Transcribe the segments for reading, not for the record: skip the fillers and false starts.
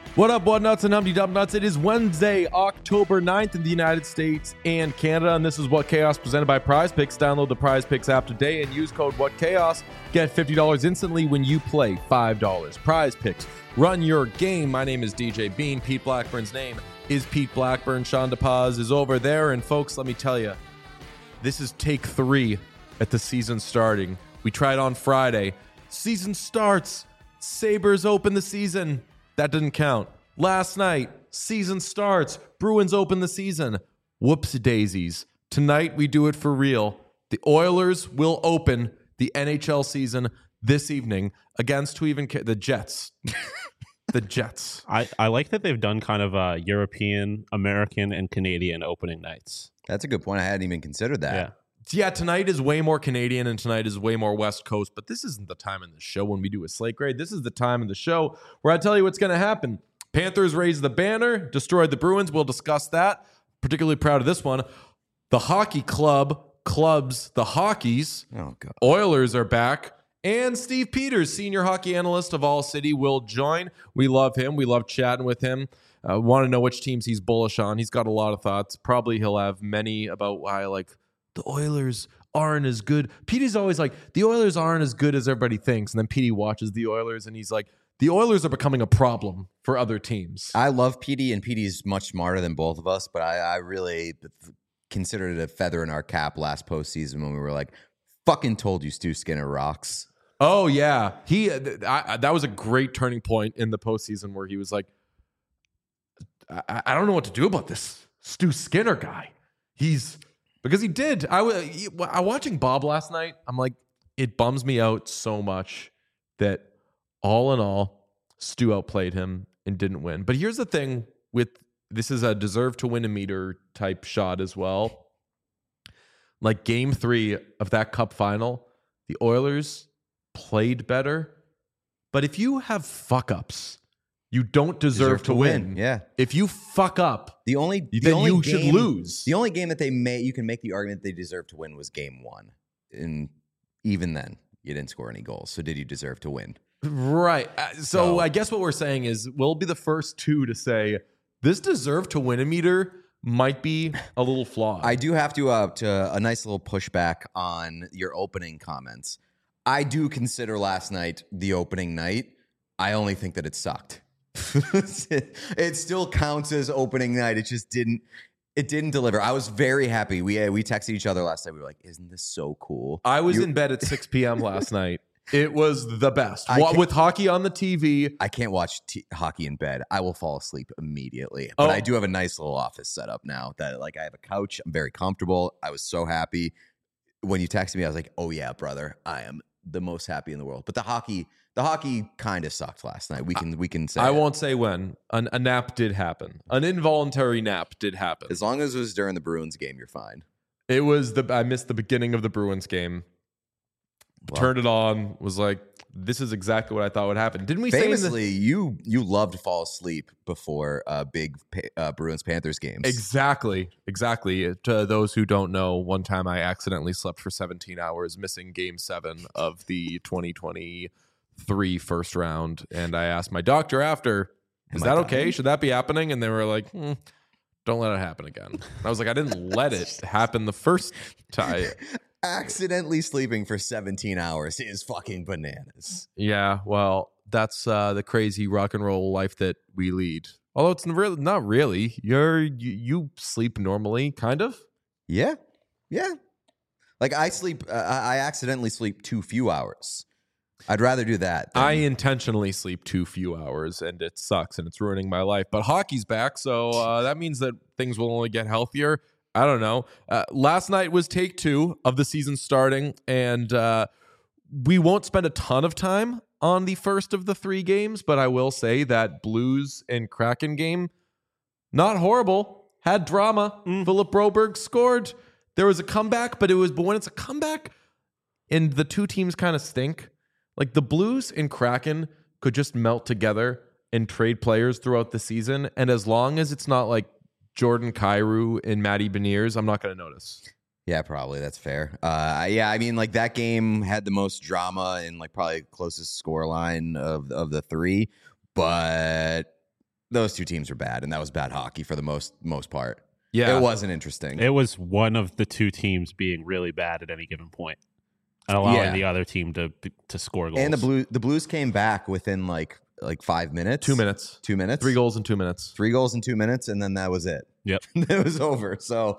What up, what nuts and Humpty Dump Nuts? It is Wednesday, October 9th in the United States and Canada, and this is What Chaos presented by Prize Picks. Download the Prize Picks app today and use code What Chaos. Get $50 instantly when you play $5. Prize Picks. Run your game. My name is DJ Bean. Pete Blackburn's name is Pete Blackburn. Sean DePaz is over there, and folks, let me tell you, this is take 3 at the season starting. We tried on Friday. Season starts. Sabres open the season. That didn't count. Last night, season starts. Bruins open the season. Whoops-daisies. Tonight, we do it for real. The Oilers will open the NHL season this evening against who even the Jets. The Jets. I like that they've done kind of European, American, and Canadian opening nights. That's a good point. I hadn't even considered that. Yeah, tonight is way more Canadian and tonight is way more West Coast, but this isn't the time in the show when we do a slate grade. This is the time in the show where I tell you what's going to happen. Panthers raised the banner, destroyed the Bruins. We'll discuss that. Particularly proud of this one. The hockey clubs the Hockeys. Oh, God. Oilers are back. And Steve Peters, senior hockey analyst of All City, will join. We love him. We love chatting with him. Want to know which teams he's bullish on. He's got a lot of thoughts. Probably he'll have many about why, like, the Oilers aren't as good. Petey's always like, the Oilers aren't as good as everybody thinks. And then Petey watches the Oilers and he's like, the Oilers are becoming a problem for other teams. I love Petey, and Petey's much smarter than both of us, but I really considered it a feather in our cap last postseason when we were like, fucking told you Stu Skinner rocks. Oh, yeah. That was a great turning point in the postseason where he was like, I don't know what to do about this Stu Skinner guy. Because he did. I watching Bob last night, I'm like, it bums me out so much that all in all, Stu outplayed him and didn't win. But here's the thing with this is a deserve to win a meter type shot as well. Like game 3 of that cup final, the Oilers played better. But if you have fuck ups, you don't deserve to win. Yeah. If you fuck up, the only should lose. The only game that you can make the argument they deserve to win was game 1. And even then, you didn't score any goals. So did you deserve to win? Right. So I guess what we're saying is we'll be the first two to say this deserve to win a meter might be a little flawed. I do have to a nice little pushback on your opening comments. I do consider last night the opening night. I only think that it sucked. It still counts as opening night. It just didn't deliver. I was very happy. We texted each other last night. We were like, isn't this so cool? I was in bed at 6 p.m. last night. It was the best. With hockey on the TV. I can't watch hockey in bed. I will fall asleep immediately. But I do have a nice little office set up now that like I have a couch. I'm very comfortable. I was so happy. When you texted me, I was like, oh yeah, brother, I am the most happy in the world. But the hockey kind of sucked last night. We can say I won't say when. A nap did happen. An involuntary nap did happen. As long as it was during the Bruins game, you're fine. It was I missed the beginning of the Bruins game. Well, turned it on. Was like, this is exactly what I thought would happen. Didn't we famously, you loved to fall asleep before big Bruins Panthers games? Exactly. To those who don't know, one time I accidentally slept for 17 hours, missing Game 7 of the 2023 first round, and I asked my doctor after, "Is that okay? Should that be happening?" And they were like, "Don't let it happen again." And I was like, "I didn't let it happen the first time." Accidentally sleeping for 17 hours is fucking bananas. Yeah, well, that's the crazy rock and roll life that we lead. Although it's not really. You sleep normally, kind of. Yeah. Like I sleep. I accidentally sleep too few hours. I'd rather do that. I intentionally sleep too few hours, and it sucks, and it's ruining my life. But hockey's back, so that means that things will only get healthier. I don't know. Last night was take 2 of the season starting, and we won't spend a ton of time on the first of the 3 games, but I will say that Blues and Kraken game, not horrible, had drama. Philip Broberg scored. There was a comeback, but when it's a comeback and the two teams kind of stink, like the Blues and Kraken could just melt together and trade players throughout the season, and as long as it's not like Jordan Kyrou and Matty Beniers, I'm not going to notice. Yeah, probably. That's fair. I mean, like that game had the most drama and like probably closest scoreline of the 3, but those two teams were bad, and that was bad hockey for the most part. Yeah. It wasn't interesting. It was one of the two teams being really bad at any given point and allowing the other team to score goals. And the Blues came back within like 5 minutes. 2 minutes. 2 minutes. 3 goals in 2 minutes. 3 goals in 2 minutes, and then that was it. Yep. It was over. So,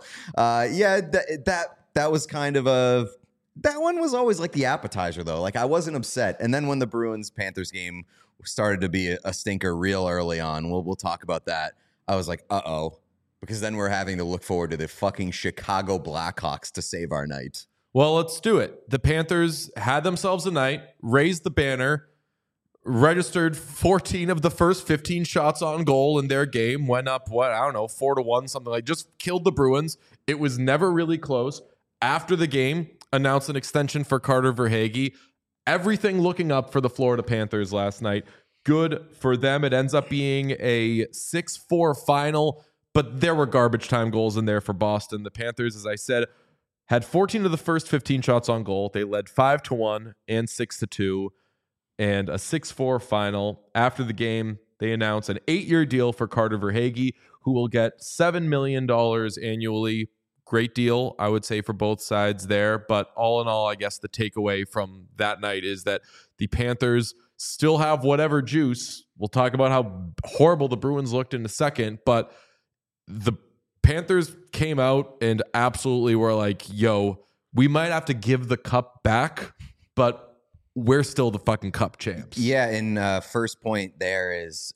that was kind of that one was always like the appetizer, though. Like, I wasn't upset. And then when the Bruins-Panthers game started to be a stinker real early on, we'll talk about that. I was like, uh-oh. Because then we're having to look forward to the fucking Chicago Blackhawks to save our night. Well, let's do it. The Panthers had themselves a night, raised the banner, registered 14 of the first 15 shots on goal in their game, went up, 4-1, something like, just killed the Bruins. It was never really close. After the game, announced an extension for Carter Verhaeghe. Everything looking up for the Florida Panthers last night. Good for them. It ends up being a 6-4 final, but there were garbage time goals in there for Boston. The Panthers, as I said, had 14 of the first 15 shots on goal. They led 5-1 and 6-2 and a 6-4 final. After the game, they announced an 8-year deal for Carter Verhaeghe, who will get $7 million annually. Great deal, I would say, for both sides there. But all in all, I guess the takeaway from that night is that the Panthers still have whatever juice. We'll talk about how horrible the Bruins looked in a second, but the Panthers came out and absolutely were like, yo, we might have to give the cup back, but we're still the fucking cup champs. Yeah, and first point there is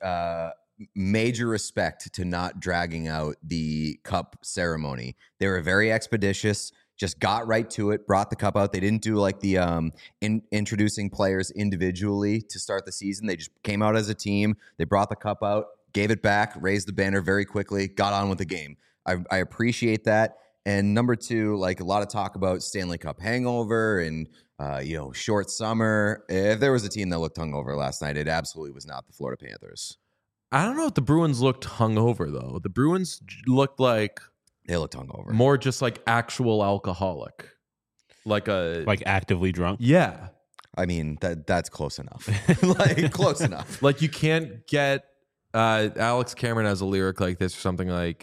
major respect to not dragging out the cup ceremony. They were very expeditious, just got right to it, brought the cup out. They didn't do like the introducing players individually to start the season. They just came out as a team. They brought the cup out, gave it back, raised the banner very quickly, got on with the game. I appreciate that. And number two, like a lot of talk about Stanley Cup hangover and short summer. If there was a team that looked hungover last night, it absolutely was not the Florida Panthers. I don't know if the Bruins looked hungover, though. The Bruins looked like... They looked hungover. More just like actual alcoholic. Like actively drunk? Yeah. I mean, that's close enough. Close enough. Like you can't get... Alex Cameron has a lyric like this or something like,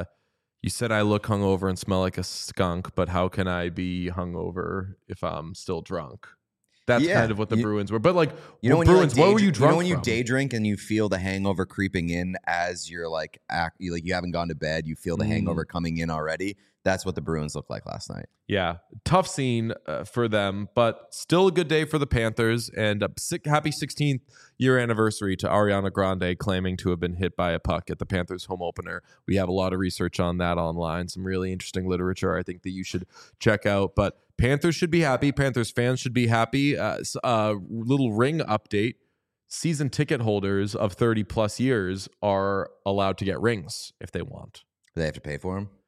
you said I look hungover and smell like a skunk, but how can I be hungover if I'm still drunk? That's kind of what the Bruins were. But like, Bruins, what were you drunk when you from? day drink and you feel the hangover creeping in as you're you haven't gone to bed, you feel the hangover coming in already. That's what the Bruins looked like last night. Yeah, tough scene for them, but still a good day for the Panthers, and a happy 16th year anniversary to Ariana Grande claiming to have been hit by a puck at the Panthers home opener. We have a lot of research on that online, some really interesting literature I think that you should check out. But Panthers should be happy. Panthers fans should be happy. Little ring update. Season ticket holders of 30 plus years are allowed to get rings if they want. Do they have to pay for them?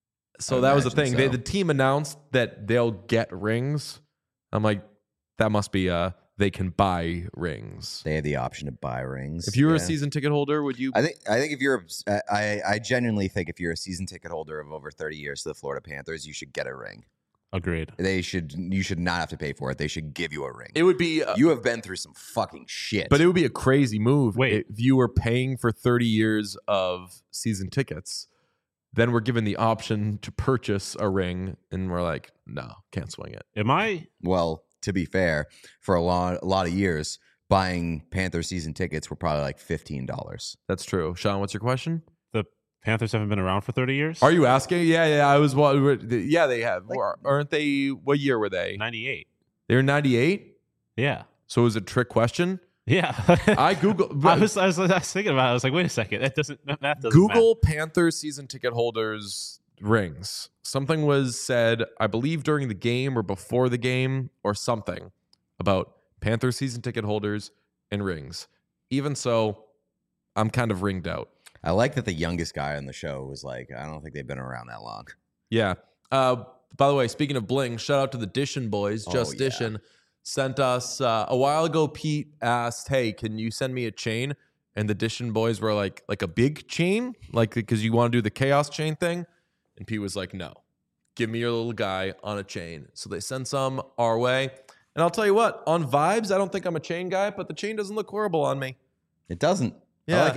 So that was the thing. The team announced that they'll get rings. I'm like, that must be they can buy rings. They have the option to buy rings. If you were a season ticket holder, would you? I think if you're, I genuinely think if you're a season ticket holder of over 30 years to the Florida Panthers, you should get a ring. Agreed. You should not have to pay for it. They should give you a ring. It would be. You have been through some fucking shit. But it would be a crazy move. Wait. If you were paying for 30 years of season tickets, then we're given the option to purchase a ring, and we're like, no, can't swing it. Am I? Well, to be fair, for a lot of years, buying Panther season tickets were probably like $15. That's true. Sean, what's your question? The Panthers haven't been around for 30 years? Are you asking? Yeah. I was. Yeah, they have. Aren't they? What year were they? 98. They were 98. Yeah. So it was a trick question. Yeah. I Googled. I was thinking about it. I was like, wait a second. That doesn't Google matter. Panthers season ticket holders rings. Something was said, I believe, during the game or before the game or something about Panthers season ticket holders and rings. Even so, I'm kind of ringed out. I like that the youngest guy on the show was like, I don't think they've been around that long. Yeah. By the way, speaking of bling, shout out to the Dishin boys. Just Dishin sent us a while ago. Pete asked, hey, can you send me a chain? And the Dishin boys were like a big chain, like because you want to do the chaos chain thing. And Pete was like, no, give me your little guy on a chain. So they sent some our way. And I'll tell you what, on vibes, I don't think I'm a chain guy, but the chain doesn't look horrible on me. It doesn't. Yeah. I like it.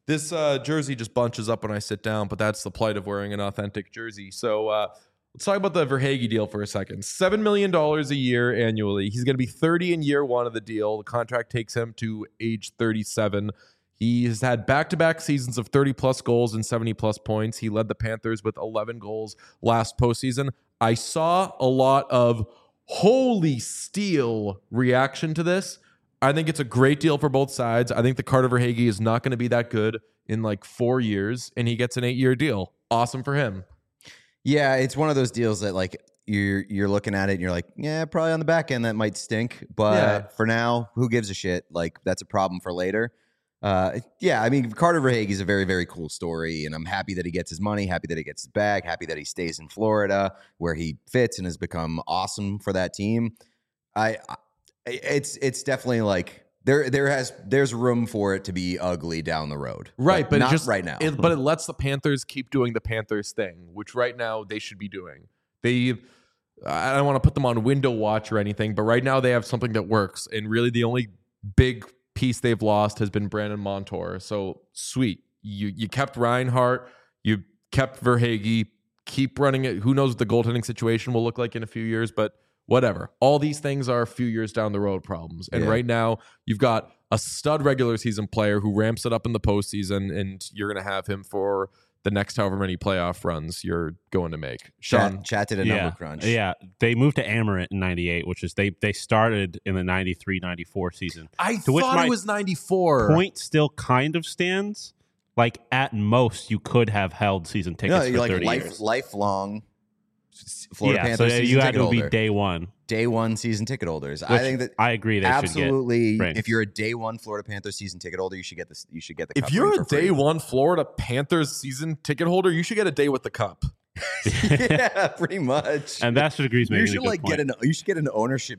This jersey just bunches up when I sit down, but that's the plight of wearing an authentic jersey. So let's talk about the Verhaeghe deal for a second. $7 million a year annually. He's going to be 30 in year one of the deal. The contract takes him to age 37. He has had back-to-back seasons of 30-plus goals and 70-plus points. He led the Panthers with 11 goals last postseason. I saw a lot of holy steel reaction to this. I think it's a great deal for both sides. I think the Carter Verhaeghe is not going to be that good in like 4 years, and he gets an 8-year deal. Awesome for him. Yeah, it's one of those deals that like you're looking at it and you're like, yeah, probably on the back end that might stink, but for now, who gives a shit? Like that's a problem for later. Yeah, I mean, Carter Verhaeghe is a very, very cool story, and I'm happy that he gets his money, happy that he gets his bag, happy that he stays in Florida where he fits and has become awesome for that team. It's definitely like there's room for it to be ugly down the road, right? But not just right now. But it lets the Panthers keep doing the Panthers thing, which right now they should be doing. I don't want to put them on window watch or anything, but right now they have something that works, and really the only big piece they've lost has been Brandon Montour. So sweet. You kept Reinhart, you kept Verhaeghe, keep running it. Who knows what the goaltending situation will look like in a few years, but whatever. All these things are a few years down the road problems. And right now you've got a stud regular season player who ramps it up in the postseason, and you're going to have him for the next however many playoff runs you're going to make. Sean, Chat did a number crunch. Yeah, they moved to Amarant in 98, which is they started in the 93-94 season. I thought it was 94. Point still kind of stands. Like at most, you could have held season tickets for 30 years. Lifelong Florida Panthers so season you had ticket to holder. be day one. Day one season ticket holders. Which I think that I agree they absolutely. should get rings. If you're a day one Florida Panthers season ticket holder, you should get this. You should get the. If cup you're ring a for free. day one Florida Panthers season ticket holder, you should get a day with the cup. Yeah, pretty much. And Bastard agrees. You should You should get an ownership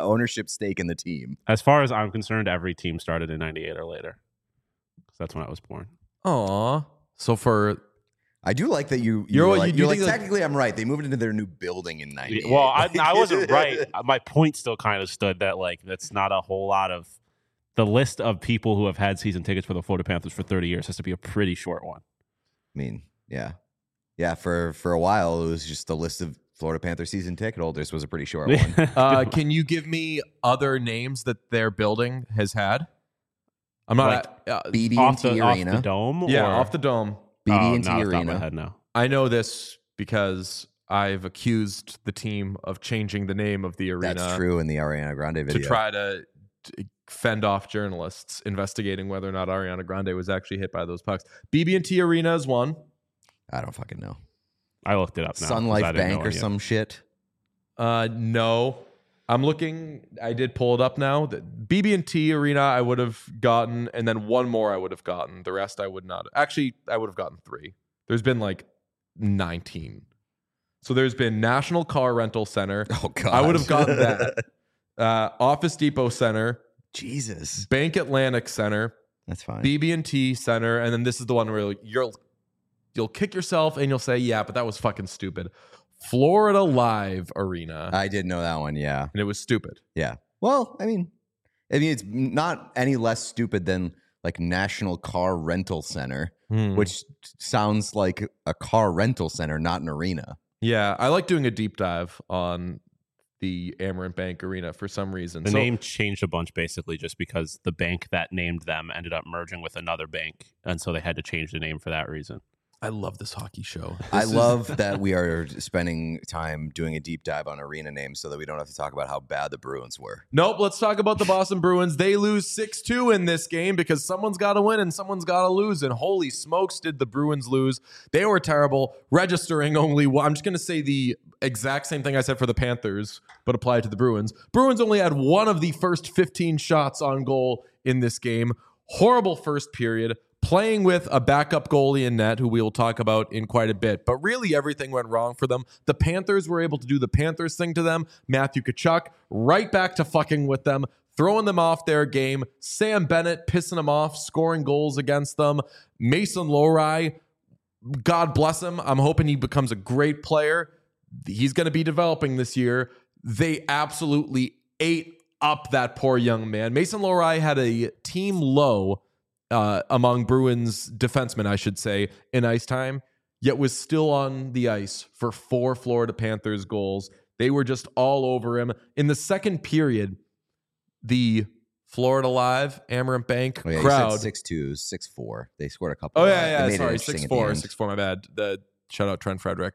stake in the team. As far as I'm concerned, every team started in 98 or later. Because that's when I was born. Aw. So for I do like that you're like technically I'm right. They moved into their new building in 98. Well, I wasn't right. My point still kind of stood that like that's not a whole lot of the list of people who have had season tickets for the Florida Panthers for 30 years has to be a pretty short one. I mean, yeah. Yeah, for a while it was just the list of Florida Panthers season ticket holders was a pretty short one. can you give me other names that their building has had? I'm not BB&T Arena. Off the dome? Yeah, off the dome. BB&T Arena. Arena. Head now. I know this because I've accused the team of changing the name of the arena. That's true in the Ariana Grande video. To try to fend off journalists investigating whether or not Ariana Grande was actually hit by those pucks. BB&T Arena is one. I don't fucking know. I looked it up now. Sun Life Bank or some shit? No. I'm looking. I did pull it up now. The BB&T Arena I would have gotten, and then one more I would have gotten. The rest I would not. Actually, I would have gotten 3. There's been like 19. So there's been National Car Rental Center. Oh, God. I would have gotten that. Office Depot Center. Jesus. Bank Atlantic Center. That's fine. BB&T Center. And then this is the one where you'll kick yourself and you'll say, yeah, but that was fucking stupid. Florida Live Arena. I did know that one, yeah. And it was stupid. Yeah. Well, I mean, it's not any less stupid than like National Car Rental Center, which sounds like a car rental center, not an arena. Yeah, I like doing a deep dive on the Amarant Bank Arena for some reason. The name changed a bunch basically just because the bank that named them ended up merging with another bank, and so they had to change the name for that reason. I love this hockey show. I love that we are spending time doing a deep dive on arena names so that we don't have to talk about how bad the Bruins were. Nope, let's talk about the Boston Bruins. They lose 6-2 in this game because someone's got to win and someone's got to lose. And holy smokes, did the Bruins lose. They were terrible, registering only one. I'm just going to say the exact same thing I said for the Panthers, but apply it to the Bruins. Bruins only had one of the first 15 shots on goal in this game. Horrible first period. Playing with a backup goalie in net, who we will talk about in quite a bit. But really, everything went wrong for them. The Panthers were able to do the Panthers thing to them. Matthew Tkachuk right back to fucking with them, throwing them off their game. Sam Bennett pissing them off, scoring goals against them. Mason Lohrei, God bless him. I'm hoping he becomes a great player. He's going to be developing this year. They absolutely ate up that poor young man. Mason Lohrei had a team low among Bruins defensemen, I should say, in ice time, yet was still on the ice for 4 Florida Panthers goals. They were just all over him. In the second period, the Florida Live, Amarant Bank crowd. 6'2", 6'4". They scored a couple. Oh, They made sorry. it interesting 6'4", at the end. 6'4", my bad. Shout out Trent Frederick.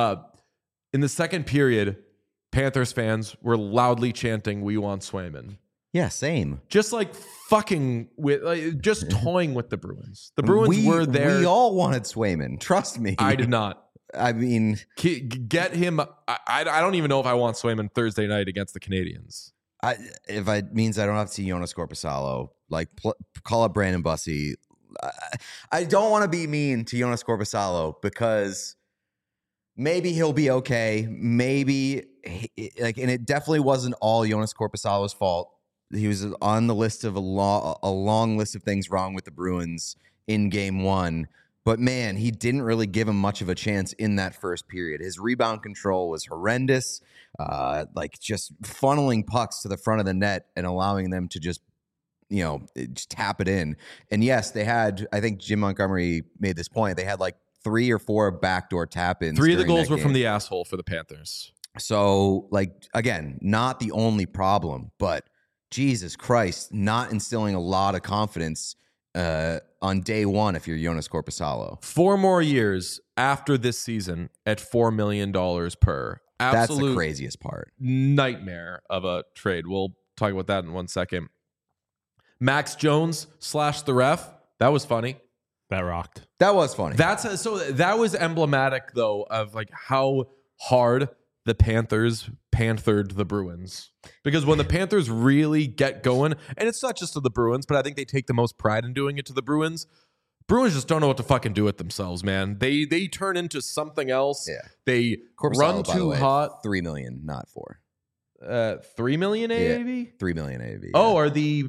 In the second period, Panthers fans were loudly chanting, "We want Swayman." Yeah, same. Just like fucking with, just toying with the Bruins. The Bruins were there. We all wanted Swayman. Trust me. I did not. I mean, get him. I don't even know if I want Swayman Thursday night against the Canadians. if it means I don't have to see Jonas Corposalo, like call up Brandon Bussey. I don't want to be mean to Jonas Corposalo because maybe he'll be okay. Maybe and it definitely wasn't all Jonas Corposalo's fault. He was on the list of a long list of things wrong with the Bruins in game one. But man, he didn't really give him much of a chance in that first period. His rebound control was horrendous, just funneling pucks to the front of the net and allowing them to just tap it in. And yes, they had, I think Jim Montgomery made this point, they had like 3 or 4 backdoor tap-ins. 3 of the goals were from the asshole for the Panthers. So, again, not the only problem, but Jesus Christ, not instilling a lot of confidence on day one if you're Jonas Corposalo. 4 more years after this season at $4 million per. That's the craziest part. Nightmare of a trade. We'll talk about that in 1 second. Max Jones / the ref. That was funny. That rocked. That was funny. That was emblematic though of like how hard the Panthers panthered the Bruins. Because when the Panthers really get going, and it's not just to the Bruins, but I think they take the most pride in doing it to the Bruins. Bruins just don't know what to fucking do with themselves, man. They turn into something else. Yeah. They Corposalo, run by the too way, hot. $3 million, not 4. 3 million AAV? Yeah, $3 million AAV. Oh,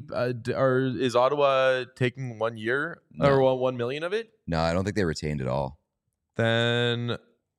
is Ottawa taking 1 year or 1 million of it? No, I don't think they retained it all. Then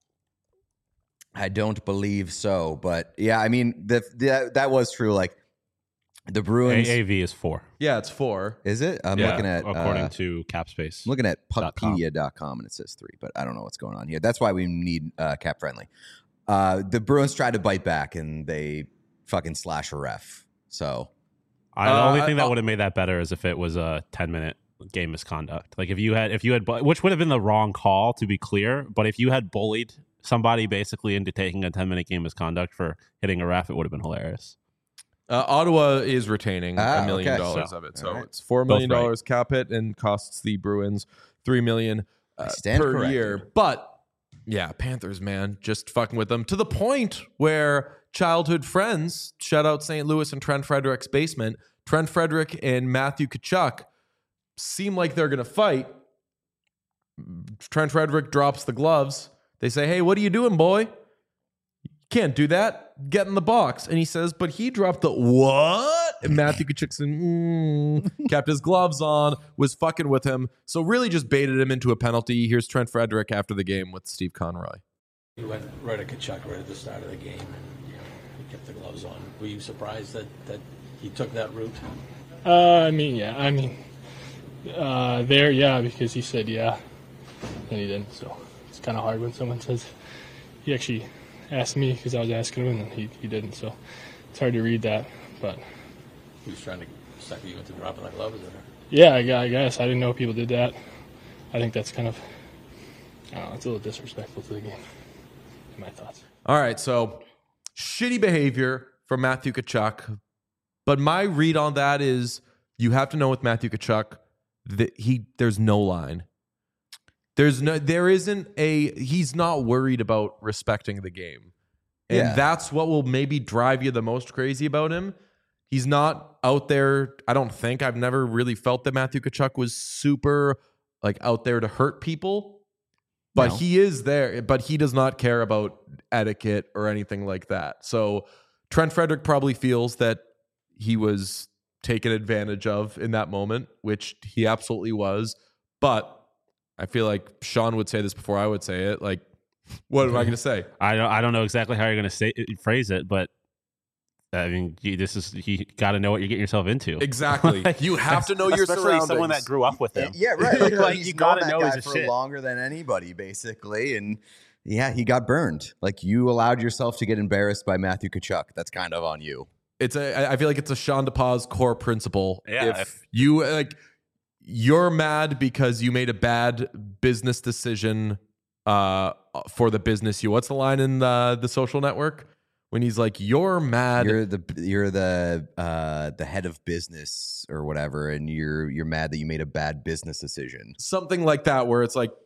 I don't believe so, but yeah, I mean that was true. Like the Bruins, AAV is 4. yeah, it's 4. is it? I'm Yeah, looking at according to CapSpace. I'm looking at Puckpedia.com and it says 3, but I don't know what's going on here. That's why we need cap friendly. The Bruins tried to bite back and they fucking slash a ref. So The only thing that would have made that better is if it was a 10-minute game misconduct. Like if you had, which would have been the wrong call to be clear, but if you had bullied somebody basically into taking a 10-minute game misconduct for hitting a ref, it would have been hilarious. Ottawa is retaining $1 million okay. of it, so All right. it's $4 million cap hit and costs the Bruins $3 million per corrected. year. But yeah, Panthers, man, just fucking with them to the point where childhood friends, shout out St. Louis and Trent Frederick's basement, Trent Frederick and Matthew Tkachuk seem like they're gonna fight. Trent Frederick drops the gloves. They say, "Hey, what are you doing, boy? You can't do that. Get in the box." And he says, "But he dropped the what?" And Matthew Tkachuk said, kept his gloves on, was fucking with him. So really just baited him into a penalty. Here's Trent Frederick after the game with Steve Conroy. He went right at Tkachuk right at the start of the game, and he kept the gloves on. Were you surprised that he took that route? Because he said yeah, and he didn't. So it's kind of hard when someone says he actually asked me because I was asking him, and he didn't. So it's hard to read that, but He was trying to sucker you into dropping the gloves, or? yeah, I guess I didn't know people did that. I think that's kind of, I don't know, it's a little disrespectful to the game. In my thoughts. All right, so shitty behavior from Matthew Tkachuk. But my read on that is you have to know with Matthew Tkachuk that there's no line. He's not worried about respecting the game. And that's what will maybe drive you the most crazy about him. He's not out there. I've never really felt that Matthew Tkachuk was super out there to hurt people. But No. he is there, but he does not care about etiquette or anything like that. So Trent Frederick probably feels that he was taken advantage of in that moment, which he absolutely was. But I feel like Sean would say this before I would say it. What am I going to say? I don't know exactly how you're going to phrase it, but I mean, you got to know what you're getting yourself into. Exactly. You have to know your Especially surroundings. someone that grew up with him. Yeah, right. Like you he's gotta known that know guy he's a for shit. longer than anybody, basically. And yeah, he got burned. Like you allowed yourself to get embarrassed by Matthew Tkachuk. That's kind of on you. I feel like it's a Sean DePaz core principle. Yeah, If you you're mad because you made a bad business decision for the business what's the line in the Social Network when he's like, you're mad, You're the head of business or whatever, and you're mad that you made a bad business decision. something like that, where it's like,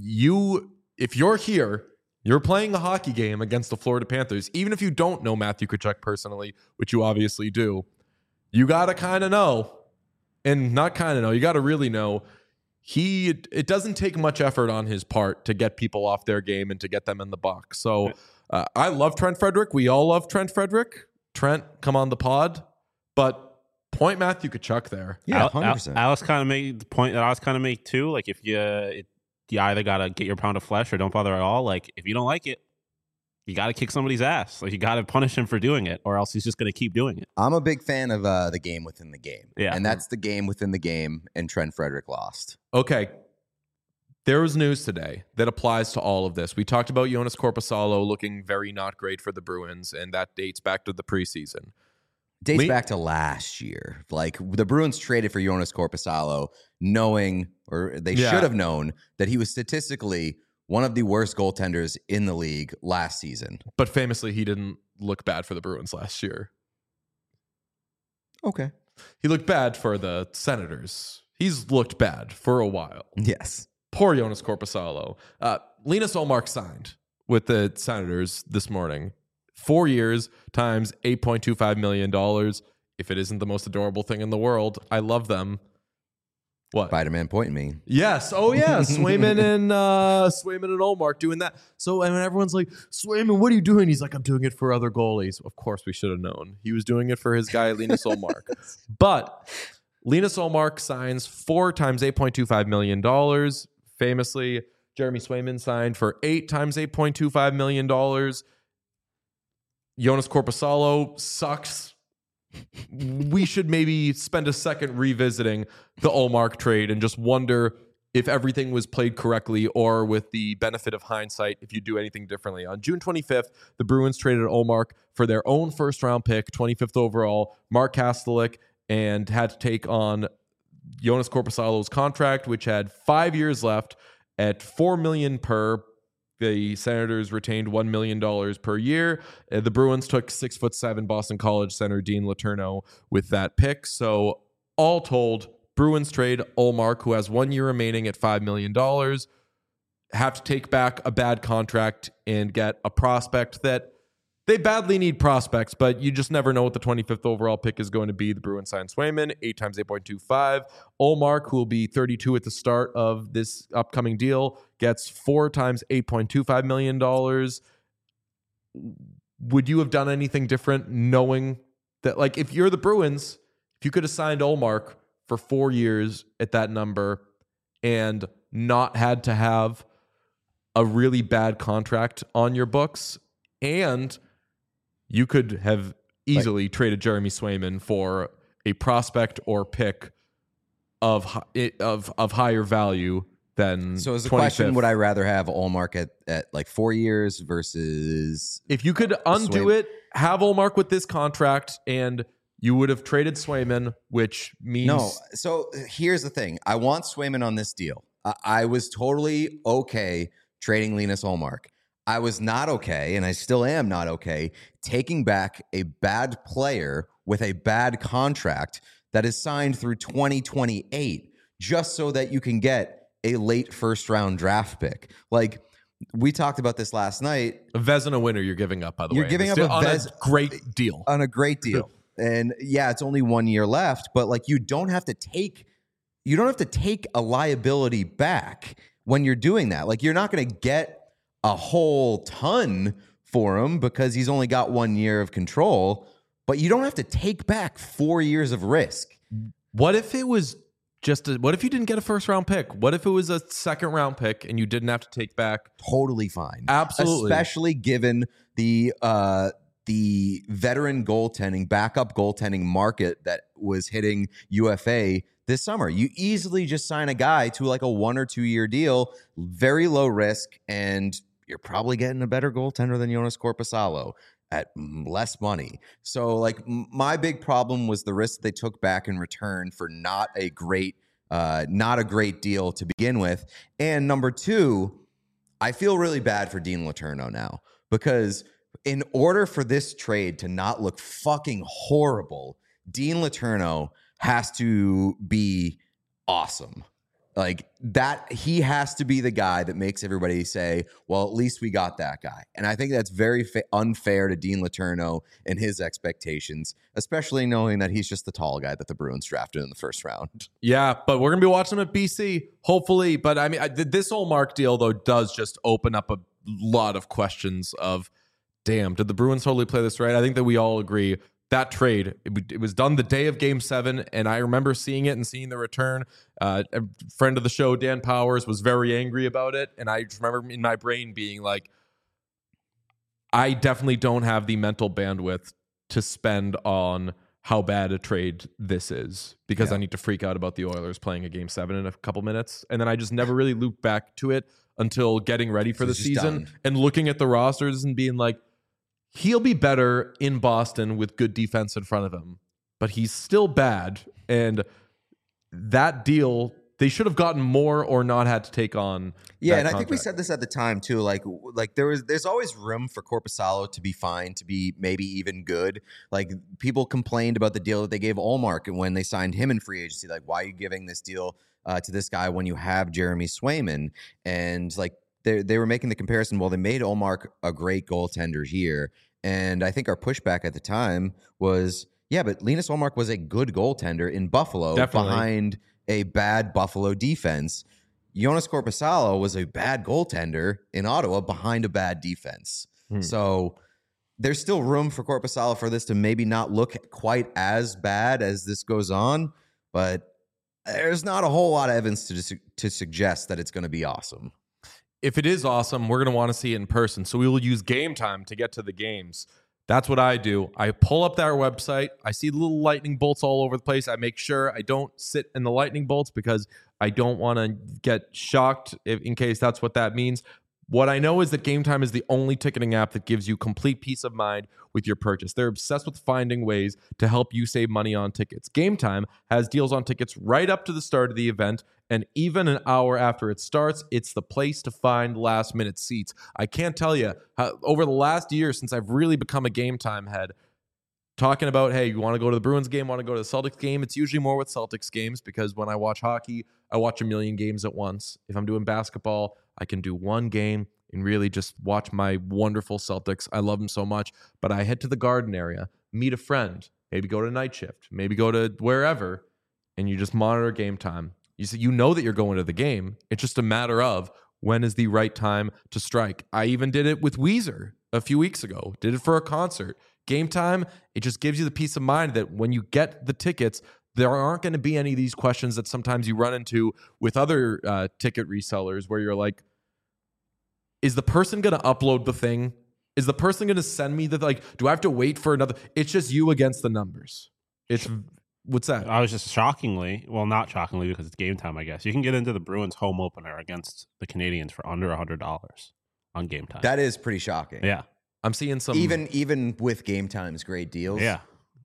if you're here, you're playing a hockey game against the Florida Panthers, even if you don't know Matthew Tkachuk personally, which you obviously do, you gotta kind of know, and not kind of know, you gotta really know. It doesn't take much effort on his part to get people off their game and to get them in the box. So I love Trent Frederick. We all love Trent Frederick. Trent, come on the pod, but point Matthew Tkachuk there. Yeah, 100%. Alex kind of made the point that I was kind of make too. Like, if you either got to get your pound of flesh or don't bother at all. Like, if you don't like it, you got to kick somebody's ass. Like, you got to punish him for doing it, or else he's just going to keep doing it. I'm a big fan of the game within the game. Yeah. And that's the game within the game, and Trent Frederick lost. Okay. There was news today that applies to all of this. We talked about Jonas Korpisalo looking very not great for the Bruins, and that dates back to the preseason. Dates back to last year. Like, the Bruins traded for Jonas Korpisalo knowing, or they should have known, that he was statistically one of the worst goaltenders in the league last season. But famously, he didn't look bad for the Bruins last year. Okay. He looked bad for the Senators. He's looked bad for a while. Yes. Poor Jonas Korpisalo. Linus Ullmark signed with the Senators this morning. 4 years times $8.25 million. If it isn't the most adorable thing in the world, I love them. What? Spider-Man pointing me. Yes. Oh, yeah. Swayman and Ullmark doing that. So, and everyone's like, Swayman, what are you doing? He's like, I'm doing it for other goalies. Of course, we should have known. He was doing it for his guy, Linus Ullmark. But Linus Ullmark signs 4 times $8.25 million. Famously, Jeremy Swayman signed for 8 times $8.25 million. Jonas Korpisalo sucks. We should maybe spend a second revisiting the Ullmark trade and just wonder if everything was played correctly, or with the benefit of hindsight, if you do anything differently. On June 25th, the Bruins traded Ullmark for their own first-round pick, 25th overall, Mark Kastelik, and had to take on Jonas Korpisalo's contract, which had 5 years left at $4 million per. The Senators retained $1 million per year. The Bruins took 6'7" Boston College center Dean Letourneau with that pick. So all told, Bruins trade Ullmark, who has 1 year remaining at $5 million, have to take back a bad contract and get a prospect that they badly need prospects, but you just never know what the 25th overall pick is going to be. The Bruins signed Swayman, 8 times $8.25. Ullmark, who will be 32 at the start of this upcoming deal, gets 4 times $8.25 million. Would you have done anything different knowing that, like, if you're the Bruins, if you could have signed Ullmark for 4 years at that number and not had to have a really bad contract on your books, and you could have easily traded Jeremy Swayman for a prospect or pick of higher value than. So is the 25th. question, would I rather have Ullmark at like 4 years versus... If you could undo it, have Ullmark with this contract, and you would have traded Swayman, which means... No. So here's the thing. I want Swayman on this deal. I was totally okay trading Linus Ullmark. I was not okay, and I still am not okay, taking back a bad player with a bad contract that is signed through 2028 just so that you can get a late first-round draft pick. Like, we talked about this last night. A Vezina winner you're giving up, by the way. You're giving up on a great deal. On a great deal. And yeah, it's only 1 year left, but like, you don't have to take a liability back when you're doing that. Like, you're not going to get a whole ton for him because he's only got 1 year of control, but you don't have to take back 4 years of risk. What if it was what if you didn't get a first round pick? What if it was a second round pick and you didn't have to take back? Totally fine. Absolutely. Especially given the the veteran goaltending, backup goaltending market that was hitting UFA this summer. You easily just sign a guy to like a 1 or 2 year deal, very low risk, and you're probably getting a better goaltender than Jonas Korpisalo at less money. So like my big problem was the risk they took back in return for not a great deal to begin with. And number two, I feel really bad for Dean Letourneau now, because in order for this trade to not look fucking horrible, Dean Letourneau has to be awesome. Like that, he has to be the guy that makes everybody say, well, at least we got that guy. And I think that's very unfair to Dean Letourneau and his expectations, especially knowing that he's just the tall guy that the Bruins drafted in the first round. Yeah, but we're going to be watching him at BC, hopefully. But I mean, this Ullmark deal, though, does just open up a lot of questions of, damn, did the Bruins totally play this right? I think that we all agree that trade, it was done the day of Game 7, and I remember seeing it and seeing the return. A friend of the show, Dan Powers, was very angry about it, and I just remember in my brain being like, I definitely don't have the mental bandwidth to spend on how bad a trade this is, because I need to freak out about the Oilers playing a Game 7 in a couple minutes, and then I just never really looped back to it until getting ready for the season and looking at the rosters and being like, he'll be better in Boston with good defense in front of him, but he's still bad. And that deal, they should have gotten more or not had to take on. Yeah, and I think we said this at the time too. Like there's always room for Korpisalo to be fine, to be maybe even good. Like people complained about the deal that they gave Ullmark and when they signed him in free agency. Like, why are you giving this deal to this guy when you have Jeremy Swayman? And like, they were making the comparison. Well, they made Ullmark a great goaltender here. And I think our pushback at the time was, yeah, but Linus Ullmark was a good goaltender in Buffalo behind a bad Buffalo defense. Jonas Korpisalo was a bad goaltender in Ottawa behind a bad defense. So there's still room for Korpisalo for this to maybe not look quite as bad as this goes on, but there's not a whole lot of evidence to suggest that it's going to be awesome. If it is awesome, we're going to want to see it in person. So we will use Game Time to get to the games. That's what I do. I pull up their website. I see little lightning bolts all over the place. I make sure I don't sit in the lightning bolts because I don't want to get shocked in case that's what that means. What I know is that Game Time is the only ticketing app that gives you complete peace of mind with your purchase. They're obsessed with finding ways to help you save money on tickets. Game Time has deals on tickets right up to the start of the event, and even an hour after it starts, it's the place to find last-minute seats. I can't tell you, over the last year since I've really become a Game Time head, talking about, hey, you want to go to the Bruins game, want to go to the Celtics game? It's usually more with Celtics games because when I watch hockey, I watch a million games at once. If I'm doing basketball, I can do one game and really just watch my wonderful Celtics. I love them so much. But I head to the Garden area, meet a friend, maybe go to night shift, maybe go to wherever, and you just monitor Game Time. You know that you're going to the game. It's just a matter of when is the right time to strike. I even did it with Weezer a few weeks ago. Did it for a concert. Game Time, it just gives you the peace of mind that when you get the tickets, there aren't going to be any of these questions that sometimes you run into with other ticket resellers where you're like, is the person going to upload the thing? Is the person going to send me do I have to wait for another? It's just you against the numbers. What's that? I was just not shockingly because it's Game Time, I guess. You can get into the Bruins home opener against the Canadiens for under $100 on Game Time. That is pretty shocking. Yeah. I'm seeing some even with Game Time's great deals. Yeah.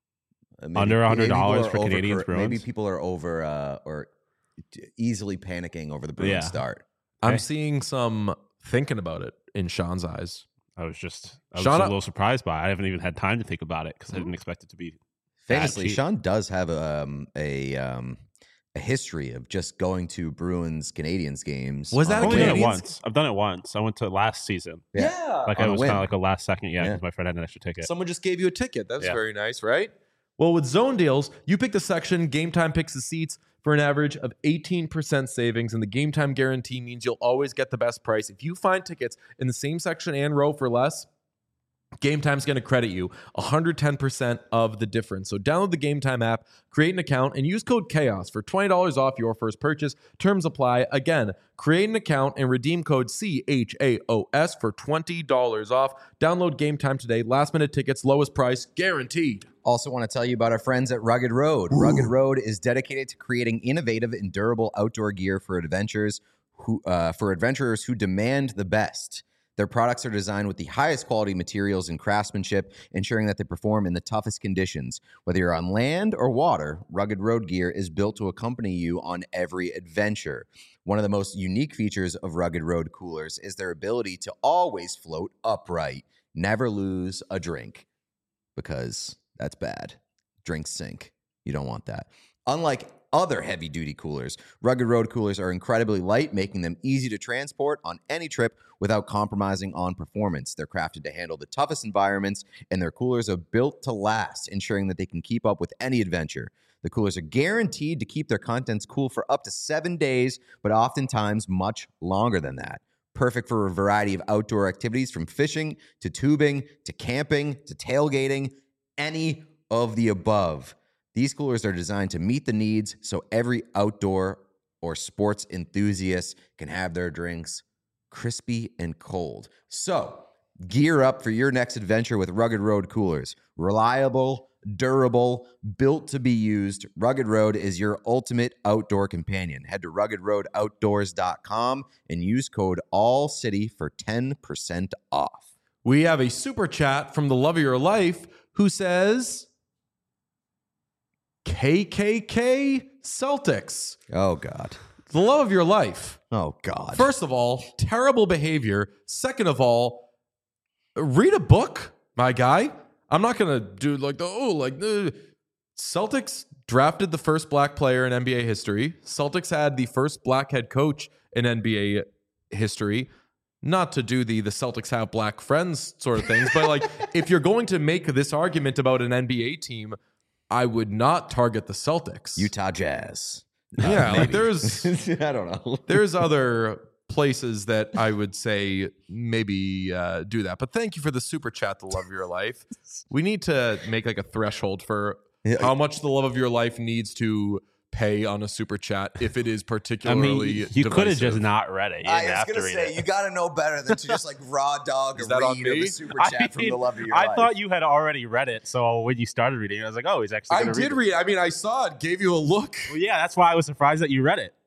Under $100 for Canadiens Bruins. Maybe people are over or easily panicking over the Bruins start. Okay. I'm seeing some thinking about it in Sean's eyes. I was a little surprised by it. I haven't even had time to think about it because I didn't expect it to be famously. Sean does have a history of just going to Bruins Canadiens games. Was that I've done it once? I've done it once. I went to last season. Yeah. Like I was kind of like a last second. Yeah, because my friend had an extra ticket. Someone just gave you a ticket. That's very nice, right? Well, with Zone Deals, you pick the section, Game Time picks the seats for an average of 18% savings, and the Game Time guarantee means you'll always get the best price. If you find tickets in the same section and row for less, Game Time's going to credit you 110% of the difference. So download the Game Time app, create an account, and use code CHAOS for $20 off your first purchase. Terms apply. Again, create an account and redeem code CHAOS for $20 off. Download Game Time today. Last minute tickets, lowest price, guaranteed. Also want to tell you about our friends at Rugged Road. Ooh. Rugged Road is dedicated to creating innovative and durable outdoor gear for adventurers who demand the best. Their products are designed with the highest quality materials and craftsmanship, ensuring that they perform in the toughest conditions. Whether you're on land or water, Rugged Road gear is built to accompany you on every adventure. One of the most unique features of Rugged Road coolers is their ability to always float upright. Never lose a drink, because that's bad. Drinks sink. You don't want that. Unlike other heavy-duty coolers, Rugged Road coolers are incredibly light, making them easy to transport on any trip without compromising on performance. They're crafted to handle the toughest environments, and their coolers are built to last, ensuring that they can keep up with any adventure. The coolers are guaranteed to keep their contents cool for up to 7 days, but oftentimes much longer than that. Perfect for a variety of outdoor activities, from fishing to tubing to camping to tailgating, any of the above. These coolers are designed to meet the needs so every outdoor or sports enthusiast can have their drinks crispy and cold. So, gear up for your next adventure with Rugged Road coolers. Reliable, durable, built to be used. Rugged Road is your ultimate outdoor companion. Head to ruggedroadoutdoors.com and use code ALLCITY for 10% off. We have a super chat from the love of your life who says, KKK Celtics. Oh, God. The love of your life. Oh, God. First of all, terrible behavior. Second of all, read a book, my guy. I'm not going to do the Celtics drafted the first black player in NBA history. Celtics had the first black head coach in NBA history. Not to do the Celtics have black friends sort of things, but if you're going to make this argument about an NBA team, I would not target the Celtics. Utah Jazz. Yeah, there's I don't know. There's other places that I would say maybe do that. But thank you for the super chat, the love of your life. We need to make a threshold for how much the love of your life needs to pay on a super chat if it is particularly you could have just not read it. I was going to say, you got to know better than to just raw dog a read of a super chat from the love of your life. I thought you had already read it, so when you started reading it, I was like, oh, he's actually going to read it. I did read it. I mean, I saw it, gave you a look. Well, yeah, that's why I was surprised that you read it.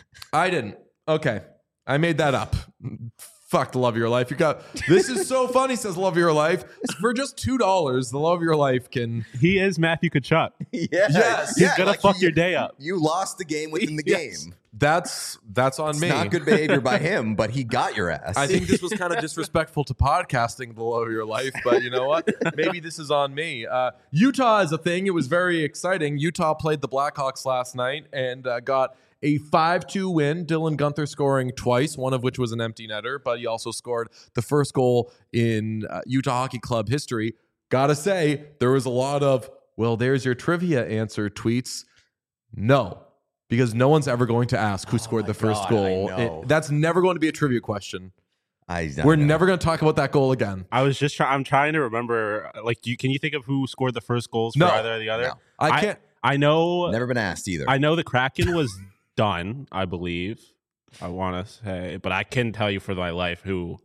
I didn't. Okay. I made that up. Fuck the love of your life. This is so funny, says love of your life. For just $2, the love of your life can. He is Matthew Tkachuk. Yes. He's gonna fuck your day up. You lost the game within the game. That's on me. Not good behavior by him, but he got your ass. I think this was kind of disrespectful to podcasting, the love of your life, but you know what? Maybe this is on me. Utah is a thing. It was very exciting. Utah played the Blackhawks last night and got a 5-2 win. Dylan Guenther scoring twice, one of which was an empty netter, but he also scored the first goal in Utah Hockey Club history. Gotta say, there was a lot of, well, there's your trivia answer tweets. No, because no one's ever going to ask who scored the first goal. That's never going to be a trivia question. We're never going to talk about that goal again. I'm trying to remember, can you think of who scored the first goals for either or the other? No. I can't. I know. Never been asked either. I know the Kraken was done, I believe. I want to say, but I couldn't tell you for my life who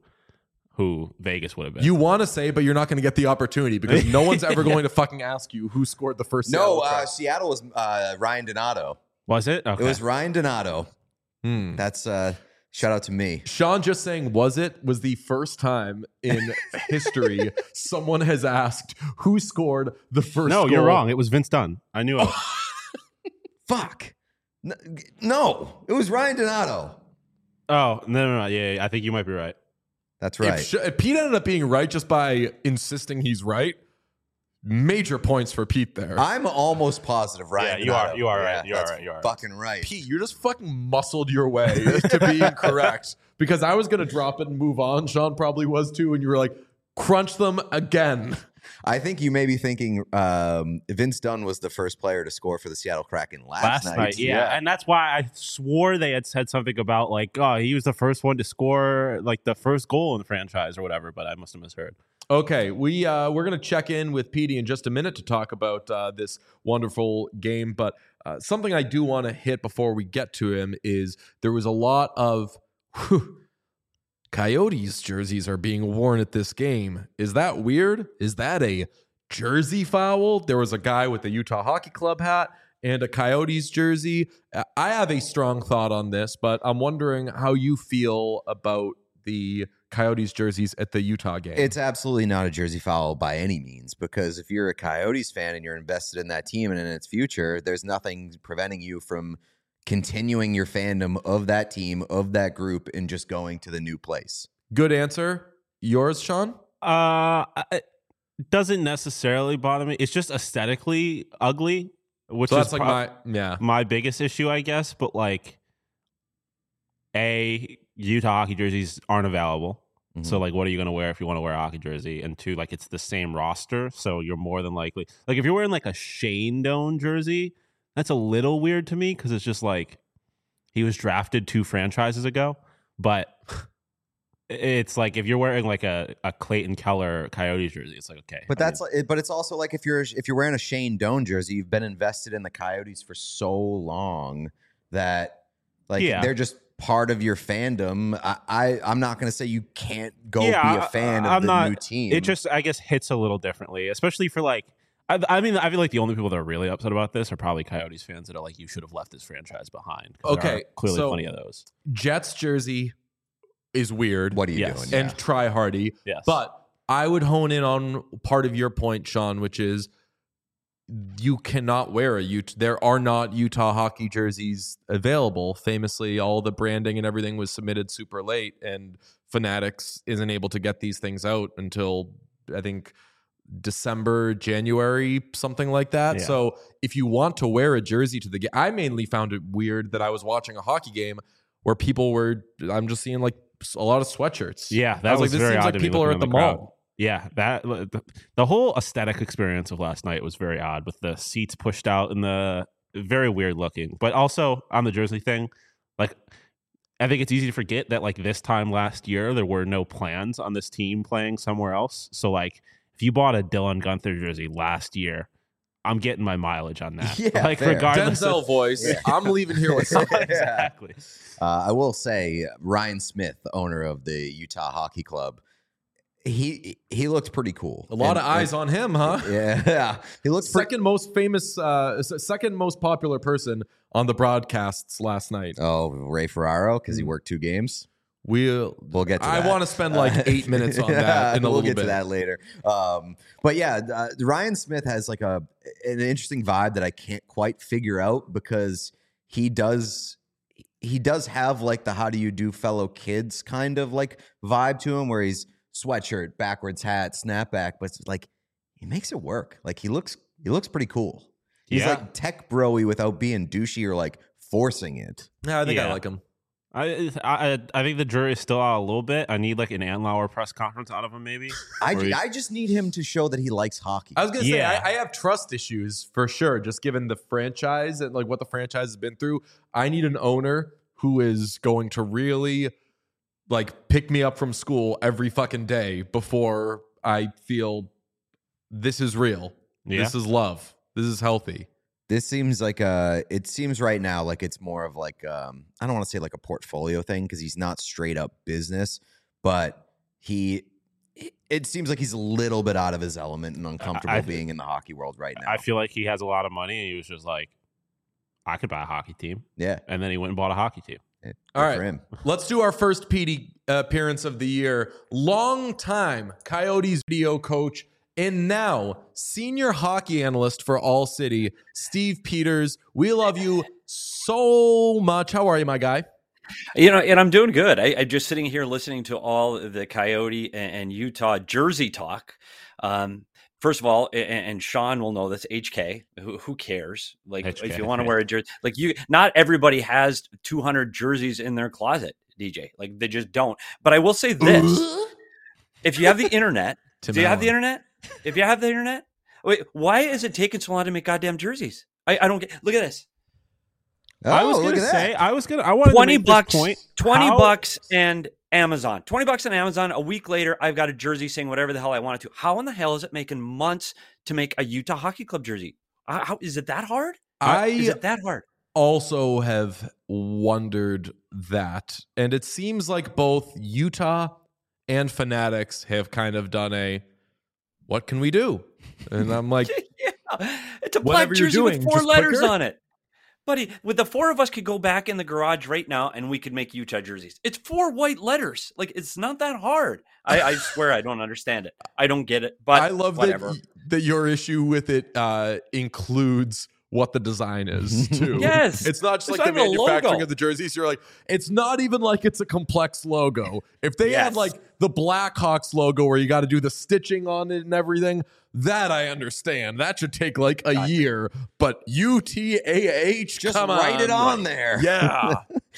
Vegas would have been. You want to say, but you're not going to get the opportunity because no one's ever going to fucking ask you who scored the first. Seattle was Ryan Donato. Was it? Okay. It was Ryan Donato. That's shout out to me. Sean just saying was the first time in history someone has asked who scored the first goal. No, you're wrong. It was Vince Dunn. I knew it. Fuck. No, it was Ryan Donato. Oh, no. Yeah, I think you might be right. That's right. If Pete ended up being right just by insisting he's right, major points for Pete there. I'm almost positive Ryan Donato. You are right. You are right. Fucking right. Pete, you just fucking muscled your way to being correct because I was going to drop it and move on. Sean probably was too, and you were like, crunch them again. I think you may be thinking Vince Dunn was the first player to score for the Seattle Kraken last night. Yeah, and that's why I swore they had said something about he was the first one to score the first goal in the franchise or whatever, but I must have misheard. Okay, we're gonna check in with Petey in just a minute to talk about this wonderful game, but something I do want to hit before we get to him is there was a lot of Coyotes jerseys are being worn at this game. Is that weird? Is that a jersey foul? There was a guy with a Utah Hockey Club hat and a Coyotes jersey. I have a strong thought on this, but I'm wondering how you feel about the Coyotes jerseys at the Utah game. It's absolutely not a jersey foul by any means, because if you're a Coyotes fan and you're invested in that team and in its future, there's nothing preventing you from continuing your fandom of that team, of that group, and just going to the new place. Good answer. Yours, Sean? It doesn't necessarily bother me. It's just aesthetically ugly, which So is that's like my biggest issue, I guess. But like, Utah hockey jerseys aren't available. Mm-hmm. So like, what are you going to wear if you want to wear a hockey jersey? And two, like, it's the same roster, so you're more than likely, like, if you're wearing like a Shane Doan jersey, that's a little weird to me because it's just like he was drafted 2 franchises ago. But it's like if you're wearing like a Clayton Keller Coyotes jersey, it's like okay. But but it's also like if you're wearing a Shane Doan jersey, you've been invested in the Coyotes for so long that like they're just part of your fandom. I'm not going to say you can't go be a fan of the new team. It just, I guess, hits a little differently, especially for like, I mean, I feel like the only people that are really upset about this are probably Coyotes fans that are like, you should have left this franchise behind. Okay, there are clearly so plenty of those. Jets jersey is weird. What are you Yes. doing? And try hardy. Yes. But I would hone in on part of your point, Sean, which is you cannot wear there are not Utah hockey jerseys available. Famously, all the branding and everything was submitted super late, and Fanatics isn't able to get these things out until I think December, January, something like that. Yeah. So if you want to wear a jersey to the game, I mainly found it weird that I was watching a hockey game where I'm just seeing like a lot of sweatshirts. Yeah, I was like, this very seems odd like to me people are looking at in the crowd. mall. Yeah, the whole aesthetic experience of last night was very odd with the seats pushed out and the very weird looking. But also on the jersey thing, like I think it's easy to forget that like this time last year there were no plans on this team playing somewhere else. So like if you bought a Dylan Guenther jersey last year, I'm getting my mileage on that. Yeah, like fair. regardless Denzel of, voice. I'm leaving here with something. exactly. I will say Ryan Smith, the owner of the Utah Hockey Club, he looked pretty cool. A lot of eyes on him, huh? Yeah, he looked Second most famous, second most popular person on the broadcasts last night. Oh, Ray Ferraro, because he worked 2 games. We'll get to that. I want to spend like 8 minutes on that in a we'll little get bit. to that later. But yeah, Ryan Smith has like an interesting vibe that I can't quite figure out, because he does have like the how do you do fellow kids kind of like vibe to him, where he's sweatshirt, backwards hat, snapback, but it's like he makes it work. Like he looks pretty cool. He's like tech bro-y without being douchey or like forcing it. Yeah, I think I Yeah. like him. I think the jury is still out a little bit. I need like an Andlauer press conference out of him, maybe. I just need him to show that he likes hockey. I was gonna say Yeah. I have trust issues for sure, just given the franchise and like what the franchise has been through. I need an owner who is going to really like pick me up from school every fucking day before I feel this is real. Yeah. This is love. This is healthy. This seems like it seems right now like it's more of like I don't want to say like a portfolio thing, because he's not straight up business, but it seems like he's a little bit out of his element and uncomfortable being in the hockey world right now. I feel like he has a lot of money and he was just like, I could buy a hockey team. Yeah. And then he went and bought a hockey team. Good All right, for him. let's do our first PD appearance of the year. Long time Coyotes video coach and now senior hockey analyst for All City, Steve Peters. We love you so much. How are you, my guy? You know, and I'm doing good. I'm just sitting here listening to all the Coyote and Utah jersey talk. First of all, and Sean will know this, HK, who cares? Like, HK, if you want to wear a jersey, like not everybody has 200 jerseys in their closet, DJ. Like, they just don't. But I will say this. If you have the internet, do you have the internet? If you have the internet, wait, why is it taking so long to make goddamn jerseys? I don't get, look at this. Oh, I was look gonna at say that. I wanted to make $20, this point. $20 and Amazon. $20 on Amazon. A week later, I've got a jersey saying whatever the hell I wanted to. How in the hell is it making months to make a Utah Hockey Club jersey? How is it that hard? Is it that hard? Also have wondered that, and it seems like both Utah and Fanatics have kind of done a what can we do? And I'm like, yeah, it's a whatever black you're jersey doing, with 4 just letters quicker. on it. Buddy, with the 4 of us could go back in the garage right now and we could make Utah jerseys. It's 4 white letters. Like, it's not that hard. I swear I don't understand it. I don't get it. But I love whatever. that your issue with it includes what the design is too. Yes. It's not just It's like the not even a manufacturing logo. of the jerseys. You're like, it's not even like it's a complex logo. If they had Yes. like the Blackhawks logo where you got to do the stitching on it and everything, that I understand. That should take like a year. But UTAH, Just come write it on there. Yeah.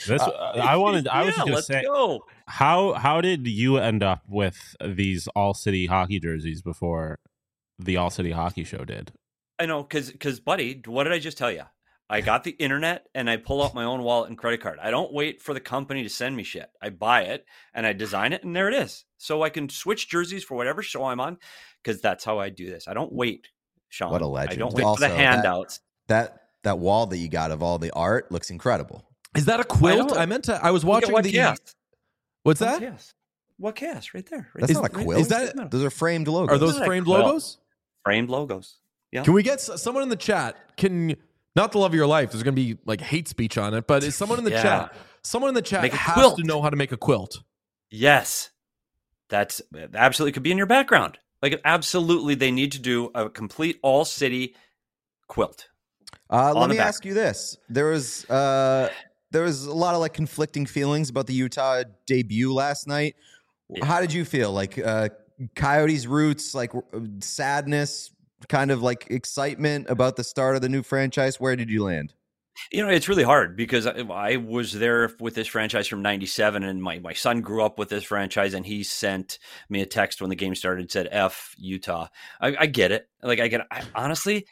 I was just gonna let's say, go. how did you end up with these All City hockey jerseys before the All City Hockey Show did? I know, because, buddy, what did I just tell you? I got the internet and I pull out my own wallet and credit card. I don't wait for the company to send me shit. I buy it and I design it and there it is. So I can switch jerseys for whatever show I'm on because that's how I do this. I don't wait, Sean. What a legend. I don't wait Also, for the handouts. That wall that you got of all the art looks incredible. Is that a quilt? I I was watching what the. chaos? What's that? Yes. What chaos? Right there. Right That's there. not a Right- quilt. is that- Those are framed logos. Are those Isn't that framed quilt? logos? framed logos? Yeah. Can we get someone in the chat? Not the love of your life. There's going to be like hate speech on it, but is someone in the Yeah. chat? Someone in the chat Make a has quilt. to know how to make a quilt. Yes. That's absolutely could be in your background. Like, absolutely, they need to do a complete all city quilt. Let me the back. ask you this: there was a lot of like conflicting feelings about the Utah debut last night. Yeah. How did you feel? Like Coyotes' roots, like sadness, kind of like excitement about the start of the new franchise. Where did you land? You know, it's really hard because I was there with this franchise from '97, and my son grew up with this franchise, and he sent me a text when the game started and said, "F Utah." I get it. Like, I get it. Honestly,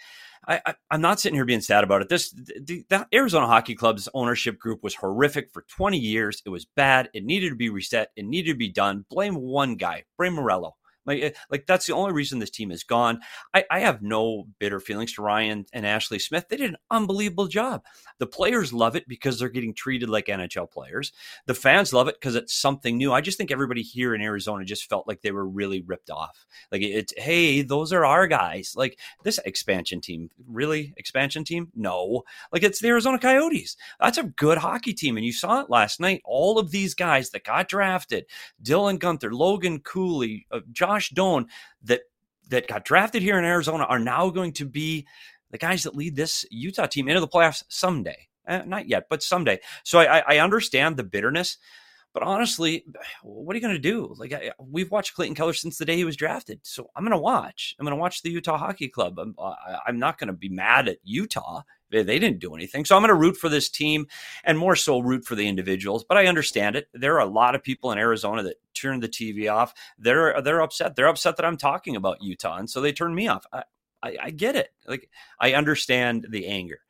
I'm not sitting here being sad about it. The Arizona Hockey Club's ownership group was horrific for 20 years. It was bad. It needed to be reset. It needed to be done. Blame one guy, Bray Morello. Like that's the only reason this team is gone. I have no bitter feelings to Ryan and Ashley Smith. They did an unbelievable job. The players love it because they're getting treated like NHL players. The fans love it because it's something new. I just think everybody here in Arizona just felt like they were really ripped off. Like, it's, hey, those are our guys. Like, this expansion team, really? Expansion team? No. Like, it's the Arizona Coyotes. That's a good hockey team. And you saw it last night. All of these guys that got drafted, Dylan Gunther, Logan Cooley, Josh Doan, that got drafted here in Arizona are now going to be the guys that lead this Utah team into the playoffs someday. Not yet, but someday. So I understand the bitterness, but honestly, what are you going to do? Like, we've watched Clayton Keller since the day he was drafted. So I'm going to watch. I'm going to watch the Utah Hockey Club. I'm not going to be mad at Utah. They didn't do anything. So I'm going to root for this team and more so root for the individuals. But I understand it. There are a lot of people in Arizona that turn the TV off. They're upset. They're upset that I'm talking about Utah. And so they turn me off. I get it. Like, I understand the anger.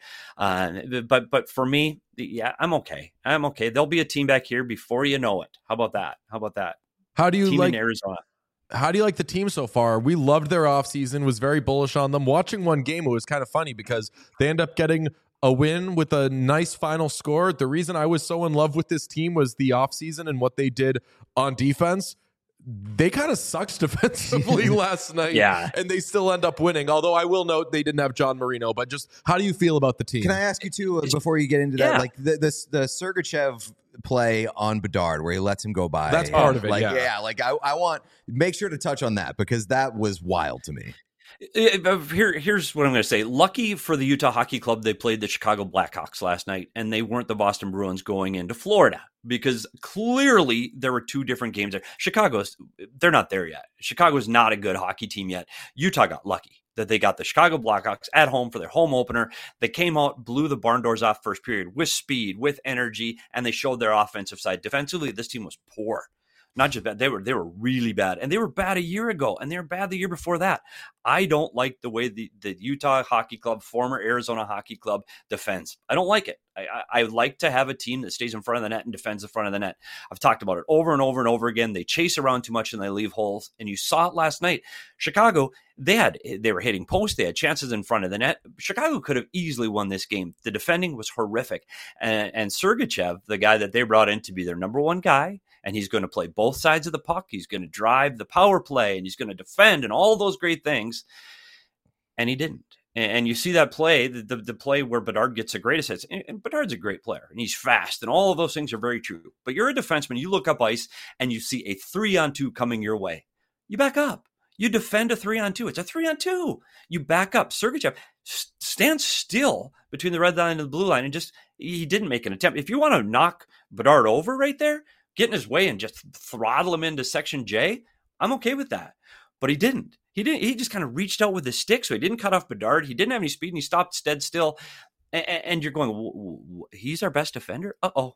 But for me, yeah, I'm okay. I'm okay. There'll be a team back here before you know it. How about that? How do you team like in Arizona? How do you like the team so far? We loved their offseason, was very bullish on them. Watching one game, it was kind of funny because they end up getting a win with a nice final score. The reason I was so in love with this team was the offseason and what they did on defense. They kind of sucked defensively last night, Yeah. and they still end up winning. Although I will note they didn't have John Marino. But just how do you feel about the team? Can I ask you too before you get into that? Yeah. Like the Sergachev play on Bedard where he lets him go by. That's part of it, Like, yeah. like I want make sure to touch on that because that was wild to me. Here's what I'm going to say. Lucky for the Utah Hockey Club, they played the Chicago Blackhawks last night, and they weren't the Boston Bruins going into Florida because clearly there were two different games there. They're not there yet. Chicago's not a good hockey team yet. Utah got lucky that they got the Chicago Blackhawks at home for their home opener. They came out, blew the barn doors off first period with speed, with energy, and they showed their offensive side. Defensively, this team was poor. Not just bad, they were really bad, and they were bad a year ago, and they were bad the year before that. I don't like the way the Utah Hockey Club, former Arizona Hockey Club, defends. I don't like it. I like to have a team that stays in front of the net and defends the front of the net. I've talked about it over and over and over again. They chase around too much and they leave holes. And you saw it last night. Chicago, they were hitting posts. They had chances in front of the net. Chicago could have easily won this game. The defending was horrific. And Sergachev, the guy that they brought in to be their number one guy, and he's going to play both sides of the puck. He's going to drive the power play, and he's going to defend and all those great things. And he didn't. And you see that play, the play where Bedard gets the great assists. And Bedard's a great player, and he's fast, and all of those things are very true. But you're a defenseman. You look up ice, and you see a 3-on-2 coming your way. You back up. You defend a 3-on-2. It's a 3-on-2. You back up. Sergachev stands still between the red line and the blue line, and he didn't make an attempt. If you want to knock Bedard over right there, get in his way and just throttle him into Section J, I'm okay with that. But he didn't. He just kind of reached out with his stick, so he didn't cut off Bedard. He didn't have any speed, and he stopped dead still. And you're going, he's our best defender?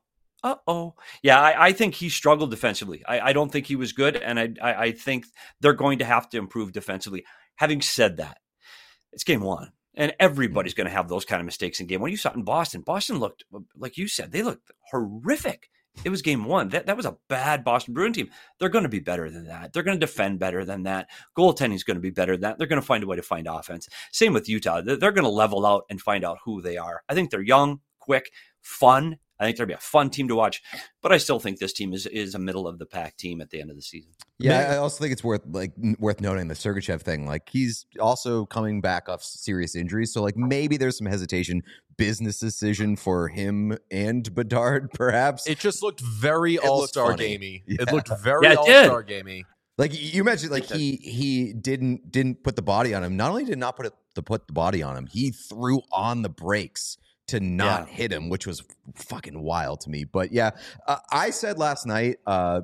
Uh-oh. Yeah, I think he struggled defensively. I don't think he was good, and I think they're going to have to improve defensively. Having said that, it's game one, and everybody's going to have those kind of mistakes in game one. You saw it in Boston. Boston looked, like you said, they looked horrific. It was game one. That was a bad Boston Bruin team. They're going to be better than that. They're going to defend better than that. Goaltending is going to be better than that. They're going to find a way to find offense. Same with Utah. They're going to level out and find out who they are. I think they're young, quick, fun. I think they'll be a fun team to watch, but I still think this team is a middle of the pack team at the end of the season. Yeah, I also think it's worth noting the Sergachev thing. Like, he's also coming back off serious injuries, so like maybe there's some hesitation, business decision for him and Bedard, perhaps. It just looked very all-star gamey. Yeah. It looked very all-star gamey. Like you mentioned, like he didn't put the body on him. Not only did not put the body on him, he threw on the brakes to not hit him, which was fucking wild to me. But yeah, I said last night,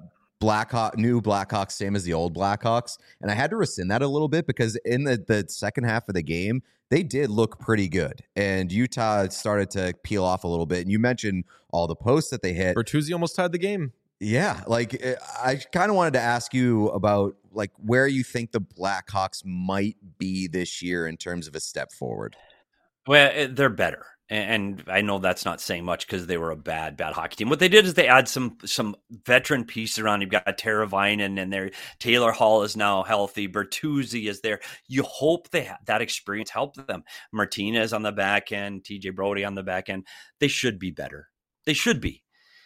new Blackhawks, same as the old Blackhawks. And I had to rescind that a little bit because in the second half of the game, they did look pretty good. And Utah started to peel off a little bit. And you mentioned all the posts that they hit. Bertuzzi almost tied the game. Yeah, like I kind of wanted to ask you about like where you think the Blackhawks might be this year in terms of a step forward. Well, they're better. And I know that's not saying much because they were a bad hockey team. What they did is they add some veteran pieces around. You've got Teravainen and there. Taylor Hall is now healthy. Bertuzzi is there. You hope that experience helped them. Martinez on the back end, TJ Brody on the back end. They should be better. They should be.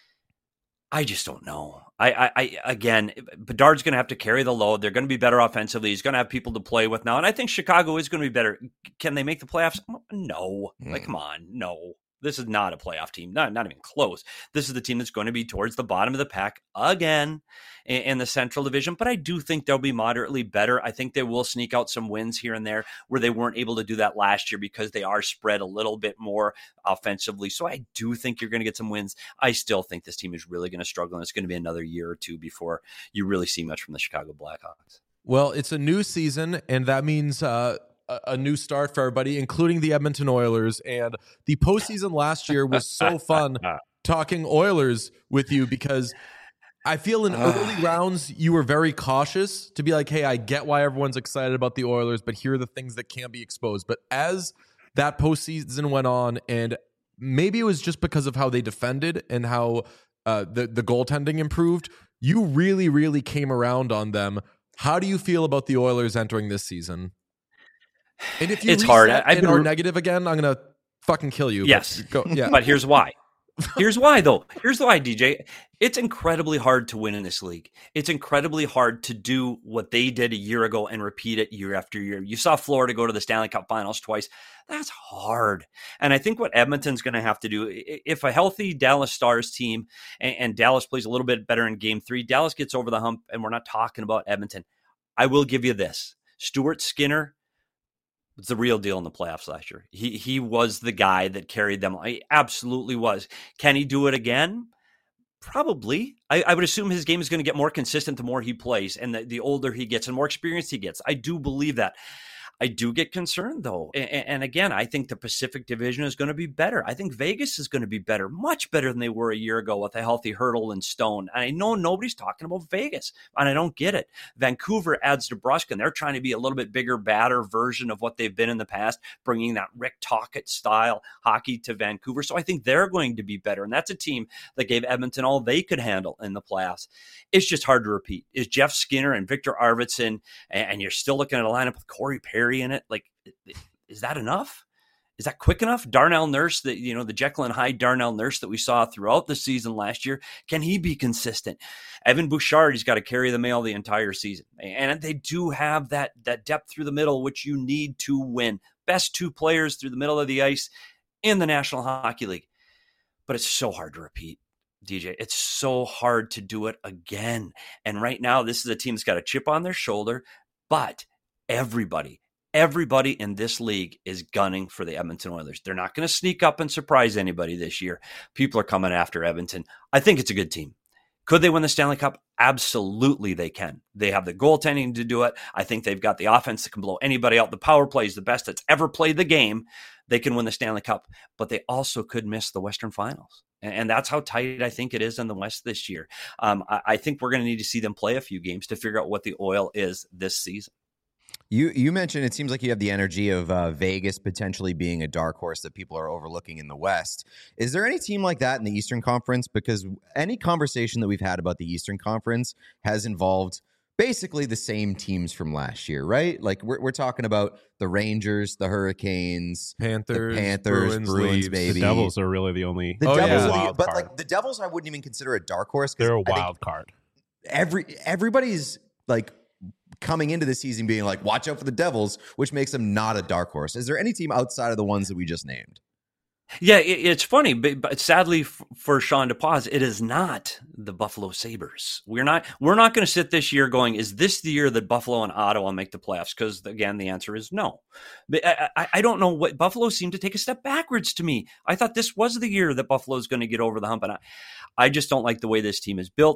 I just don't know. Again, Bedard's going to have to carry the load. They're going to be better offensively. He's going to have people to play with now. And I think Chicago is going to be better. Can they make the playoffs? No. Like, come on. No. This is not a playoff team. Not even close. This is the team that's going to be towards the bottom of the pack again in the Central Division. But I do think they'll be moderately better. I think they will sneak out some wins here and there where they weren't able to do that last year because they are spread a little bit more offensively. So I do think you're going to get some wins. I still think this team is really going to struggle, and it's going to be another year or two before you really see much from the Chicago Blackhawks. Well, it's a new season, and that means a new start for everybody, including the Edmonton Oilers. And the postseason last year was so fun talking Oilers with you because I feel in early rounds you were very cautious to be like, hey, I get why everyone's excited about the Oilers, but here are the things that can't be exposed. But as that postseason went on, and maybe it was just because of how they defended and how the goaltending improved, you really, really came around on them. How do you feel about the Oilers entering this season? And if you it's hard. and are negative again, I'm gonna fucking kill you. Yes, but, but here's why. Here's why, though. Here's why, DJ. It's incredibly hard to win in this league. It's incredibly hard to do what they did a year ago and repeat it year after year. You saw Florida go to the Stanley Cup Finals twice. That's hard. And I think what Edmonton's going to have to do, if a healthy Dallas Stars team and Dallas plays a little bit better in Game 3, Dallas gets over the hump, and we're not talking about Edmonton. I will give you this. Stuart Skinner was the real deal in the playoffs last year. He was the guy that carried them. He absolutely was. Can he do it again? Probably. I would assume his game is going to get more consistent the more he plays and the older he gets and more experience he gets. I do believe that. I do get concerned, though. And again, I think the Pacific Division is going to be better. I think Vegas is going to be better, much better than they were a year ago with a healthy Hurdle and Stone. And I know nobody's talking about Vegas, and I don't get it. Vancouver adds DeBrusk, and they're trying to be a little bit bigger, badder version of what they've been in the past, bringing that Rick Tocchet style hockey to Vancouver. So I think they're going to be better. And that's a team that gave Edmonton all they could handle in the playoffs. It's just hard to repeat. Is Jeff Skinner and Victor Arvidsson, and you're still looking at a lineup with Corey Perry in it. Like, is that enough? Is that quick enough? Darnell Nurse, the Jekyll and Hyde Darnell Nurse that we saw throughout the season last year, can he be consistent? Evan Bouchard, he's got to carry the mail the entire season. And they do have that depth through the middle, which you need to win. Best 2 players through the middle of the ice in the National Hockey League. But it's so hard to repeat, DJ. It's so hard to do it again. And right now, this is a team that's got a chip on their shoulder, but everybody in this league is gunning for the Edmonton Oilers. They're not going to sneak up and surprise anybody this year. People are coming after Edmonton. I think it's a good team. Could they win the Stanley Cup? Absolutely they can. They have the goaltending to do it. I think they've got the offense that can blow anybody out. The power play is the best that's ever played the game. They can win the Stanley Cup, but they also could miss the Western Finals. And that's how tight I think it is in the West this year. I think we're going to need to see them play a few games to figure out what the Oil is this season. You mentioned it seems like you have the energy of Vegas potentially being a dark horse that people are overlooking in the West. Is there any team like that in the Eastern Conference? Because any conversation that we've had about the Eastern Conference has involved basically the same teams from last year, right? Like we're talking about the Rangers, the Hurricanes, Panthers, Bruins, baby. The Devils are really the only wild card. Like the Devils, I wouldn't even consider a dark horse. They're a wild card. Everybody's like coming into the season being like, watch out for the Devils, which makes them not a dark horse. Is there any team outside of the ones that we just named? Yeah, it's funny, but sadly for Sean DePaz, it is not the Buffalo Sabres. We're not going to sit this year going, is this the year that Buffalo and Ottawa make the playoffs? Because again, the answer is no. But I don't know what Buffalo seemed to take a step backwards to me. I thought this was the year that Buffalo is going to get over the hump, and I just don't like the way this team is built.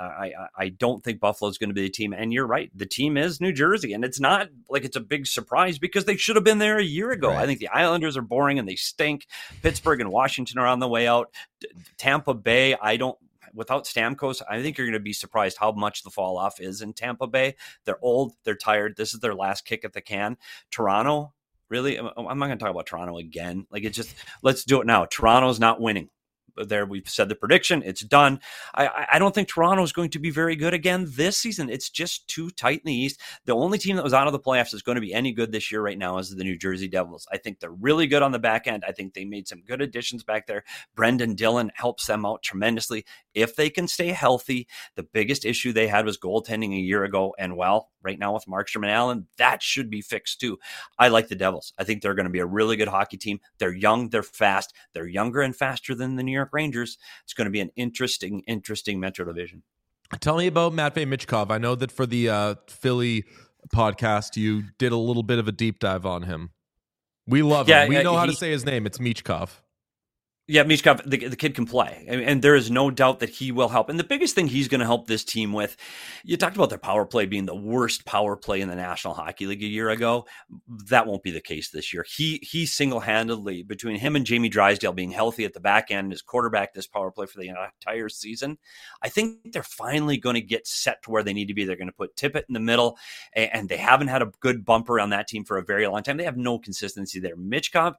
I don't think Buffalo is going to be the team. And you're right, the team is New Jersey, and it's not like it's a big surprise because they should have been there a year ago. Right. I think the Islanders are boring and they stink. Pittsburgh and Washington are on the way out. Tampa Bay, without Stamkos, I think you're going to be surprised how much the fall off is in Tampa Bay. They're old, they're tired. This is their last kick at the can. Toronto, really, I'm not going to talk about Toronto again. Like, it's just, let's do it now. Toronto's not winning. There, we've said the prediction. It's done. I don't think Toronto is going to be very good again this season. It's just too tight in the East. The only team that was out of the playoffs is going to be any good this year right now is the New Jersey Devils. I think they're really good on the back end. I think they made some good additions back there. Brendan Dillon helps them out tremendously. If they can stay healthy, the biggest issue they had was goaltending a year ago. And well, right now with Markstrom and Allen, that should be fixed too. I like the Devils. I think they're going to be a really good hockey team. They're young, they're fast. They're younger and faster than the New York Rangers. It's going to be an interesting Metro Division. Tell me about Matvei Michkov. I know that for the Philly podcast, you did a little bit of a deep dive on him. We love him. We know how to say his name. It's Michkov. Yeah, Michkov, the kid can play. And there is no doubt that he will help. And the biggest thing he's going to help this team with, you talked about their power play being the worst power play in the National Hockey League a year ago. That won't be the case this year. He single-handedly, between him and Jamie Drysdale being healthy at the back end, his quarterback this power play for the entire season, I think they're finally going to get set to where they need to be. They're going to put Tippett in the middle, and they haven't had a good bumper on that team for a very long time. They have no consistency there. Michkov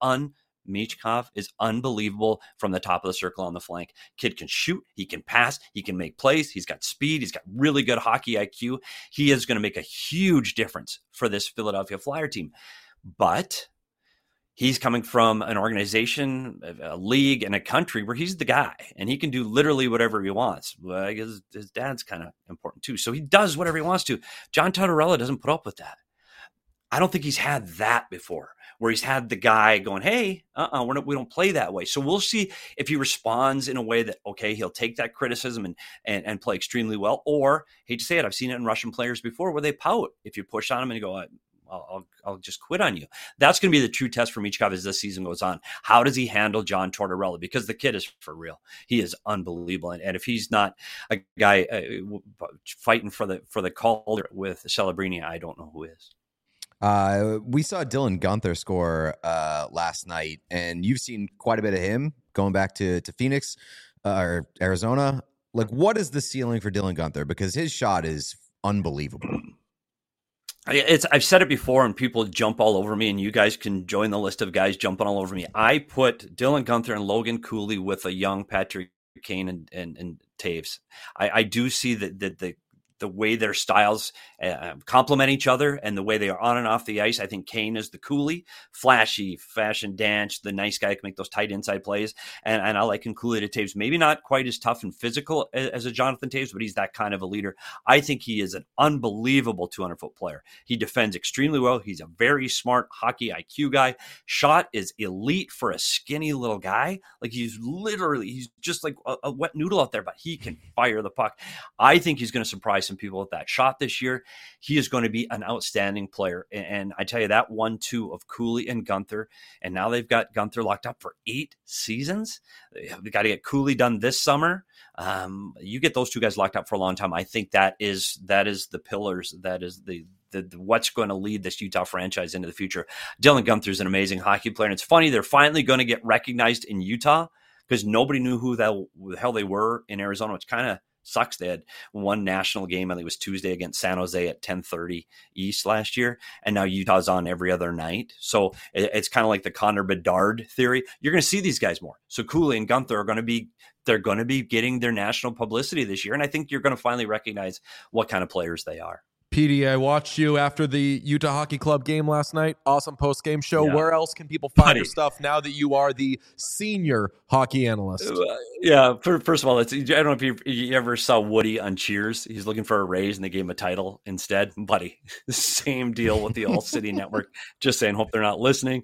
is unbelievable from the top of the circle on the flank. Kid can shoot, he can pass, he can make plays, he's got speed, he's got really good hockey IQ. He is going to make a huge difference for this Philadelphia Flyer team. But he's coming from an organization, a league, and a country where he's the guy, and he can do literally whatever he wants. Well, I guess his dad's kind of important too, so he does whatever he wants to. John Tortorella doesn't put up with that. I don't think he's had that before, where he's had the guy going, hey, we don't play that way. So we'll see if he responds in a way that, okay, he'll take that criticism and play extremely well. Or, hate to say it, I've seen it in Russian players before where they pout if you push on them and you go, I'll just quit on you. That's going to be the true test for Michkov as this season goes on. How does he handle John Tortorella? Because the kid is for real. He is unbelievable. And if he's not a guy fighting for the Calder with Celebrini, I don't know who is. We saw Dylan Guenther score last night, and you've seen quite a bit of him going back to Phoenix or Arizona. Like, what is the ceiling for Dylan Guenther? Because his shot is unbelievable. I've said it before, and people jump all over me, and you guys can join the list of guys jumping all over me. I put Dylan Guenther and Logan Cooley with a young Patrick Kane and Taves. I do see that the way their styles complement each other and the way they are on and off the ice. I think Kane is the Cooley, flashy, fashion dance, the nice guy, can make those tight inside plays. And I liken Cooley to Taves. Maybe not quite as tough and physical as a Jonathan Taves, but he's that kind of a leader. I think he is an unbelievable 200-foot player. He defends extremely well. He's a very smart hockey IQ guy. Shot is elite for a skinny little guy. Like he's just like a wet noodle out there, but he can fire the puck. I think he's going to surprise some people with that shot this year. He is going to be an outstanding player. And I tell you, that 1-2 of Cooley and Guenther, and now they've got Guenther locked up for 8 seasons. We got to get Cooley done this summer. You get those two guys locked up for a long time. I think that is the pillars. That is the what's going to lead this Utah franchise into the future. Dylan Guenther is an amazing hockey player. And it's funny, they're finally going to get recognized in Utah because nobody knew who the hell they were in Arizona, which kind of sucks. They had one national game, I think it was Tuesday against San Jose at 10:30 East last year, and now Utah's on every other night. So it's kind of like the Connor Bedard theory. You're going to see these guys more. So Cooley and Guenther are going to be getting their national publicity this year, and I think you're going to finally recognize what kind of players they are. PD, I watched you after the Utah Hockey Club game last night. Awesome post-game show. Yeah. Where else can people find your stuff now that you are the senior hockey analyst? Yeah, first of all, I don't know if you ever saw Woody on Cheers. He's looking for a raise, and they gave him a title instead. Buddy, same deal with the All City Network. Just saying, hope they're not listening.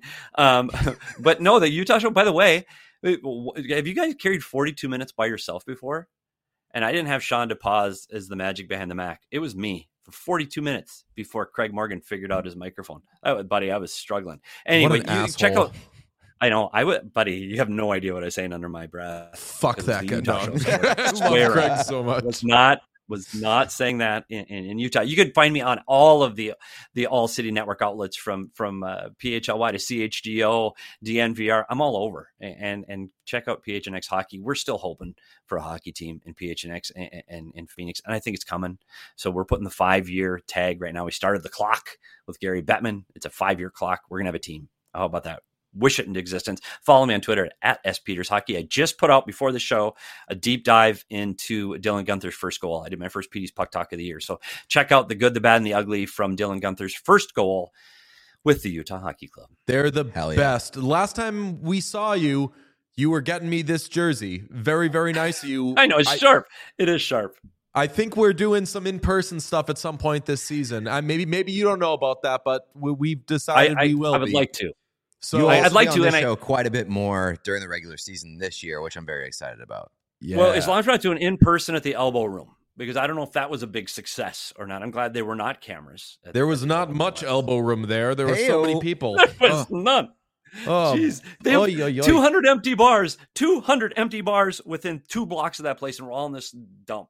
But no, the Utah show, by the way, have you guys carried 42 minutes by yourself before? And I didn't have Sean DePaz as the magic behind the Mac. It was me. For 42 minutes before Craig Morgan figured out his microphone. Buddy, I was struggling. Anyway, check out. I know. Buddy, you have no idea what I was saying under my breath. Fuck that guy, dog. I love Craig so much. Was not saying that in Utah. You could find me on all of the All City Network outlets from PHLY to CHGO, DNVR. I'm all over. And check out PHNX Hockey. We're still hoping for a hockey team in PHNX and in Phoenix, and I think it's coming. So we're putting the 5-year tag right now. We started the clock with Gary Bettman. It's a 5-year clock. We're gonna have a team. How about that? Wish it into existence. Follow me on Twitter at @SPetersHockey. I just put out before the show a deep dive into Dylan Guenther's first goal. I did my first PD's Puck Talk of the year. So check out the good, the bad, and the ugly from Dylan Guenther's first goal with the Utah Hockey Club. They're the best. Last time we saw you, you were getting me this jersey. Very, very nice of you. I know, it's sharp. It is sharp. I think we're doing some in-person stuff at some point this season. Maybe you don't know about that, but we've decided we will. I would like to. So I'd like to show quite a bit more during the regular season this year, which I'm very excited about. Yeah. Well, as long as we're not doing in person at the Elbow Room, because I don't know if that was a big success or not. I'm glad there were not cameras. There was not much Elbow Room there. There were so many people. There was none. Oh, jeez. 200 empty bars. 200 empty bars within 2 blocks of that place, and we're all in this dump.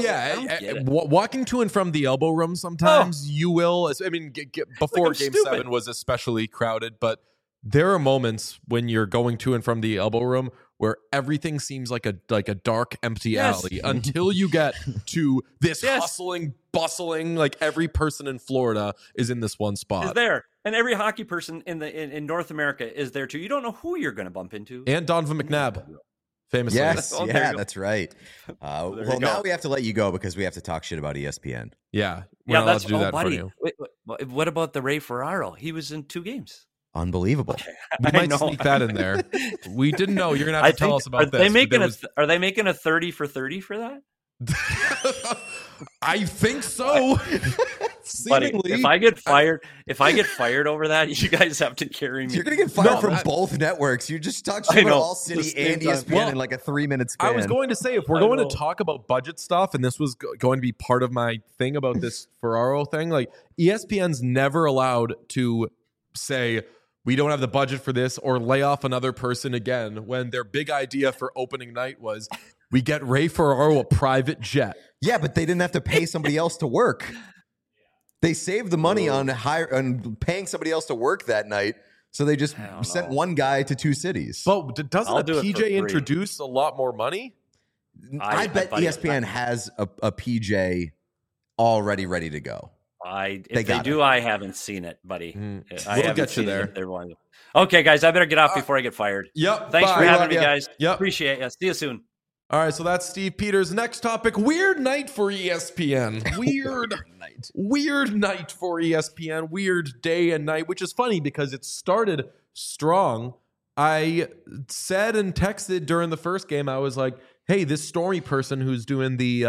Walking to and from the Elbow Room sometimes you will. I mean, before Game 7 was especially crowded, but there are moments when you're going to and from the Elbow Room where everything seems like a dark, empty alley until you get to this hustling, bustling, like every person in Florida is in this one spot. Is there. And every hockey person in North America is there too. You don't know who you're going to bump into. And Donovan McNabb. Famously. Yes, that's right. Well, now we have to let you go because we have to talk shit about ESPN. Yeah, we're not allowed to do that for you. Wait, what about the Ray Ferraro? He was in 2 games. Unbelievable. We might sneak that in there. We didn't know. You're gonna have to tell us about this. Are they making a 30 for 30 for that? I think so. Buddy, if I get fired over that, you guys have to carry me. You're gonna get fired from both networks. You just talked about All City and ESPN in like a 3-minute span. I was going to say, if we're going to talk about budget stuff, and this was going to be part of my thing about this Ferraro thing, like ESPN's never allowed to say we don't have the budget for this or lay off another person again, when their big idea for opening night was we get Ray Ferraro a private jet. Yeah, but they didn't have to pay somebody else to work. They saved the money on paying somebody else to work that night, so they just sent one guy to 2 cities. But doesn't a PJ introduce a lot more money? I bet ESPN has a PJ already ready to go. If they do, I haven't seen it, buddy. We'll get you there. Okay, guys, I better get off before I get fired. Yep. Thanks for having me, guys. Yep. Appreciate it. See you soon. All right, so that's Steve Peters. Next topic, weird night for ESPN. Weird night for ESPN. Weird day and night, which is funny because it started strong. I said and texted during the first game, I was like, hey, this Stormy person who's doing the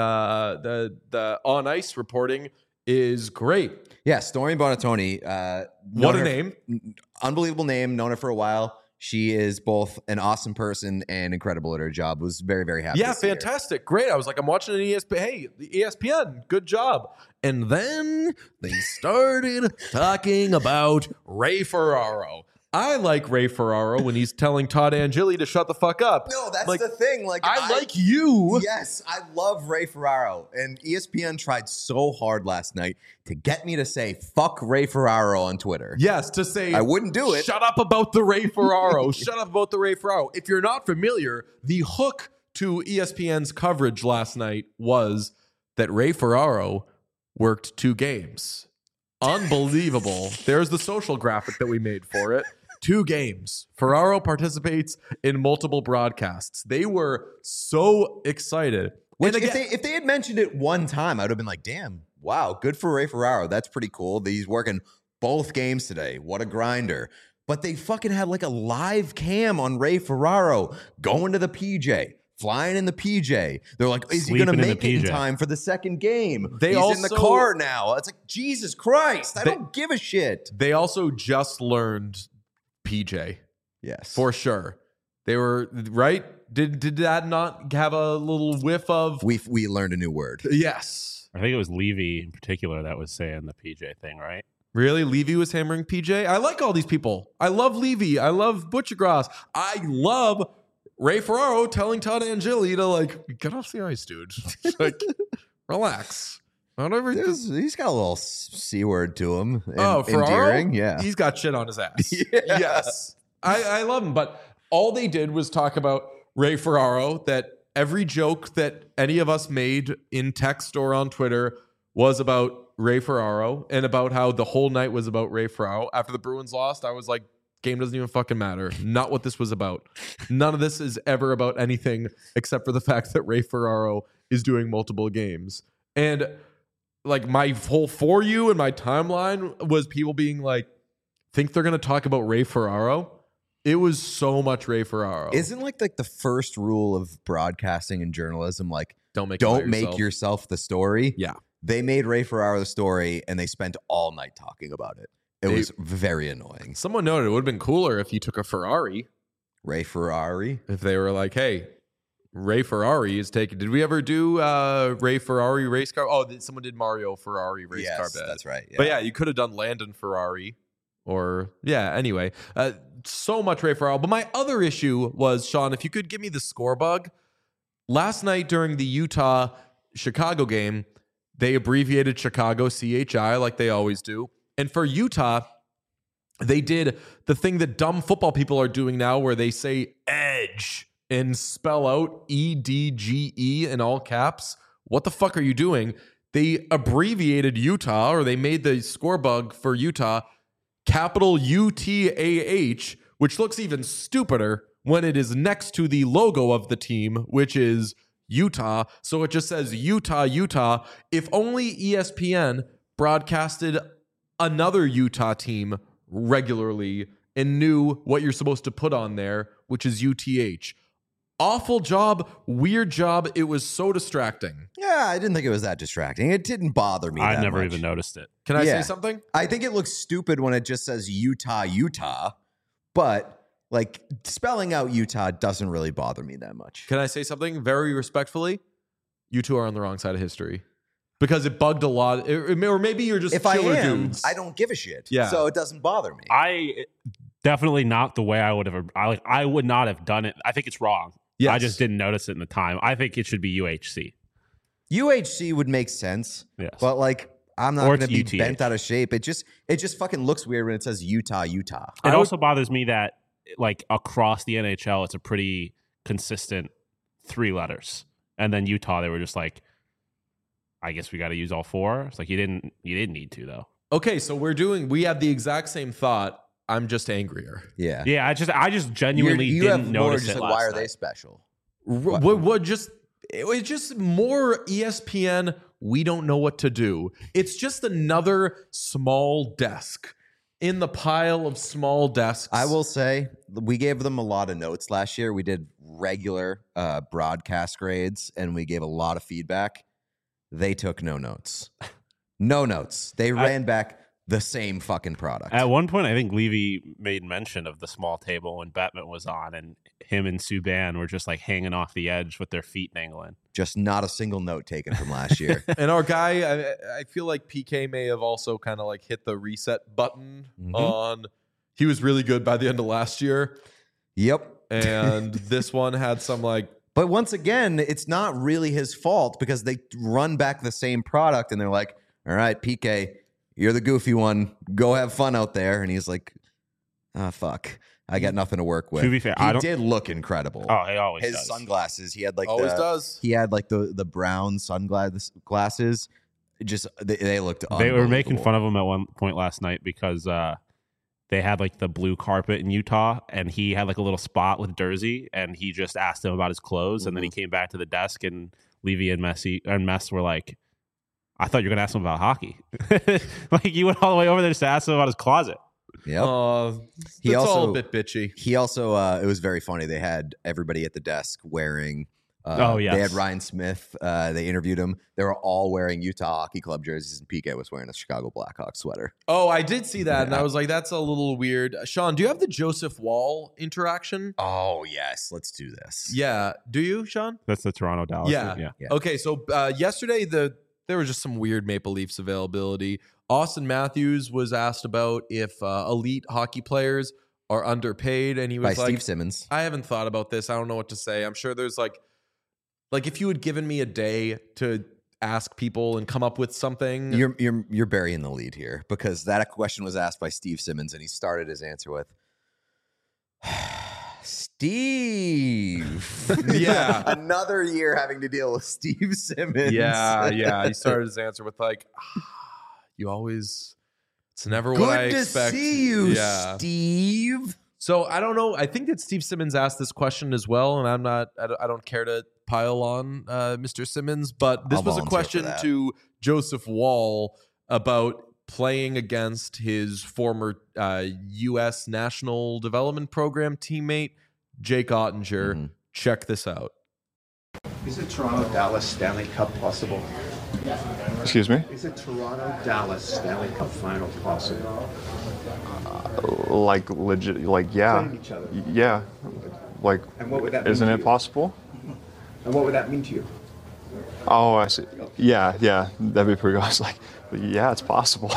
on ice reporting is great. Yeah, Stormy Buonantony. What a name. Unbelievable name. Known her for a while. She is both an awesome person and incredible at her job. Was very, very happy. Yeah, fantastic. Great. I was like, I'm watching an ESPN. Hey, the ESPN, good job. And then they started talking about Ray Ferraro. I like Ray Ferraro when he's telling Todd Angeli to shut the fuck up. No, that's the thing. Like I like you. Yes, I love Ray Ferraro. And ESPN tried so hard last night to get me to say fuck Ray Ferraro on Twitter. Yes, to say I wouldn't do it. Shut up about the Ray Ferraro. Shut up about the Ray Ferraro. If you're not familiar, the hook to ESPN's coverage last night was that Ray Ferraro worked 2 games. Unbelievable. There's the social graphic that we made for it. 2 games. Ferraro participates in multiple broadcasts. They were so excited. Which, if they had mentioned it one time, I would have been like, damn, wow, good for Ray Ferraro. That's pretty cool. He's working both games today. What a grinder. But they fucking had like a live cam on Ray Ferraro going to the PJ, flying in the PJ. They're like, is he going to make it in time for the second game? He's in the car now. It's like, Jesus Christ, I don't give a shit. They also just learned PJ. Yes. For sure. They were right. Did that not have a little whiff of? We learned a new word. Yes. I think it was Levy in particular that was saying the PJ thing, right? Really? Levy was hammering PJ? I like all these people. I love Levy. I love Butchergrass. I love Ray Ferraro telling Todd Angeli to like, get off the ice, dude. Like, relax. He's got a little C word to him. Ferraro? Endearing. Yeah. He's got shit on his ass. Yeah. Yes. I love him. But all they did was talk about Ray Ferraro, that every joke that any of us made in text or on Twitter was about Ray Ferraro and about how the whole night was about Ray Ferraro. After the Bruins lost, I was like, game doesn't even fucking matter. Not what this was about. None of this is ever about anything except for the fact that Ray Ferraro is doing multiple games. And like my whole For You and my timeline was people being like, think they're going to talk about Ray Ferraro? It was so much Ray Ferraro. Isn't like the first rule of broadcasting and journalism, like, don't make yourself the story? Yeah. They made Ray Ferraro the story and they spent all night talking about it. It was very annoying. Someone noted it would have been cooler if you took a Ferrari. Ray Ferrari? If they were like, hey, Ray Ferrari is taking. Did we ever do Ray Ferrari race car? Oh, someone did Mario Ferrari race car. Yes, that's right. Yeah. But yeah, you could have done Landon Ferrari or, yeah, anyway. So much Ray Ferraro. But my other issue was, Sean, if you could give me the score bug. Last night during the Utah-Chicago game, they abbreviated Chicago CHI like they always do. And for Utah, they did the thing that dumb football people are doing now where they say edge and spell out EDGE in all caps. What the fuck are you doing? They abbreviated Utah, or they made the score bug for Utah capital UTAH, which looks even stupider when it is next to the logo of the team, which is Utah. So it just says Utah, Utah. If only ESPN broadcasted another Utah team regularly and knew what you're supposed to put on there, which is UTH. Awful job, weird job. It was so distracting. Yeah, I didn't think it was that distracting. It didn't bother me. I never even noticed it. Can I say something? I think it looks stupid when it just says Utah, Utah, but like spelling out Utah doesn't really bother me that much. Can I say something very respectfully? You two are on the wrong side of history because it bugged a lot. Or maybe you're just killer dudes. I don't give a shit. Yeah. So it doesn't bother me. I definitely not the way I would have. I would not have done it. I think it's wrong. Yes. I just didn't notice it in the time. I think it should be UHC. UHC would make sense. Yes. But like, I'm not Or going to it's be UTH. bent out of shape. It just fucking looks weird when it says Utah. It also bothers me that like across the NHL, it's a pretty consistent 3 letters, and then Utah, they were just like, I guess we got to use all 4. It's like you didn't need to though. Okay, so we have the exact same thought. I'm just angrier. Yeah. Yeah, I just genuinely You didn't have more notice just it like, last why are night. they special? It was just more ESPN. We don't know what to do. It's just another small desk in the pile of small desks. I will say we gave them a lot of notes last year. We did regular broadcast grades, and we gave a lot of feedback. They took no notes. No notes. They ran back the same fucking product. At one point, I think Levy made mention of the small table when Bettman was on, and him and Subban were just like hanging off the edge with their feet dangling. Just not a single note taken from last year. And our guy, I feel like PK may have also kind of like hit the reset button on. He was really good by the end of last year. Yep. And this one had some like. But once again, it's not really his fault because they run back the same product and they're like, all right, PK, you're the goofy one. Go have fun out there. And he's like, fuck. I got nothing to work with. To be fair, he did look incredible. Oh, he always His does. sunglasses. He had like Always does. He had like the brown sunglasses. Just they looked. They were making fun of him at one point last night because they had like the blue carpet in Utah, and he had like a little spot with Jersey, and he just asked him about his clothes, and then he came back to the desk, and Levy and Mess were like, "I thought you were gonna ask him about hockey." Like you went all the way over there just to ask him about his closet. Yep. He also all a bit bitchy. He also it was very funny. They had everybody at the desk wearing. Yes. They had Ryan Smith. They interviewed him. They were all wearing Utah Hockey Club jerseys, and PK was wearing a Chicago Blackhawks sweater. Oh, I did see that, and I was like, "That's a little weird." Sean, do you have the Joseph Wall interaction? Oh yes, let's do this. Yeah, do you, Sean? That's the Toronto Dallas. Yeah. Okay, so yesterday there was just some weird Maple Leafs availability. Austin Matthews was asked about if elite hockey players are underpaid, and he was By like, Steve Simmons. I haven't thought about this. I don't know what to say. I'm sure there's like if you had given me a day to ask people and come up with something. You're burying the lead here because that question was asked by Steve Simmons, and he started his answer with Steve. Yeah. Another year having to deal with Steve Simmons. Yeah. He started his answer with like, it's never Good what I to expect. see you, Yeah. Steve. So I don't know. I think that Steve Simmons asked this question as well, and I don't care to pile on Mr. Simmons, but this I'll was a volunteer question for that. to Joseph Wall about playing against his former U.S. National Development Program teammate, Jake Ottinger. Mm-hmm. Check this out. Is a Toronto-Dallas Stanley Cup possible? Excuse me? Is a Toronto-Dallas Stanley Cup final possible? Like legit, like yeah, Playing each other. yeah, like And what would that mean isn't to it you? possible? And what would that mean to you? Oh, I see. Yeah, that'd be pretty good. I was like, yeah, it's possible.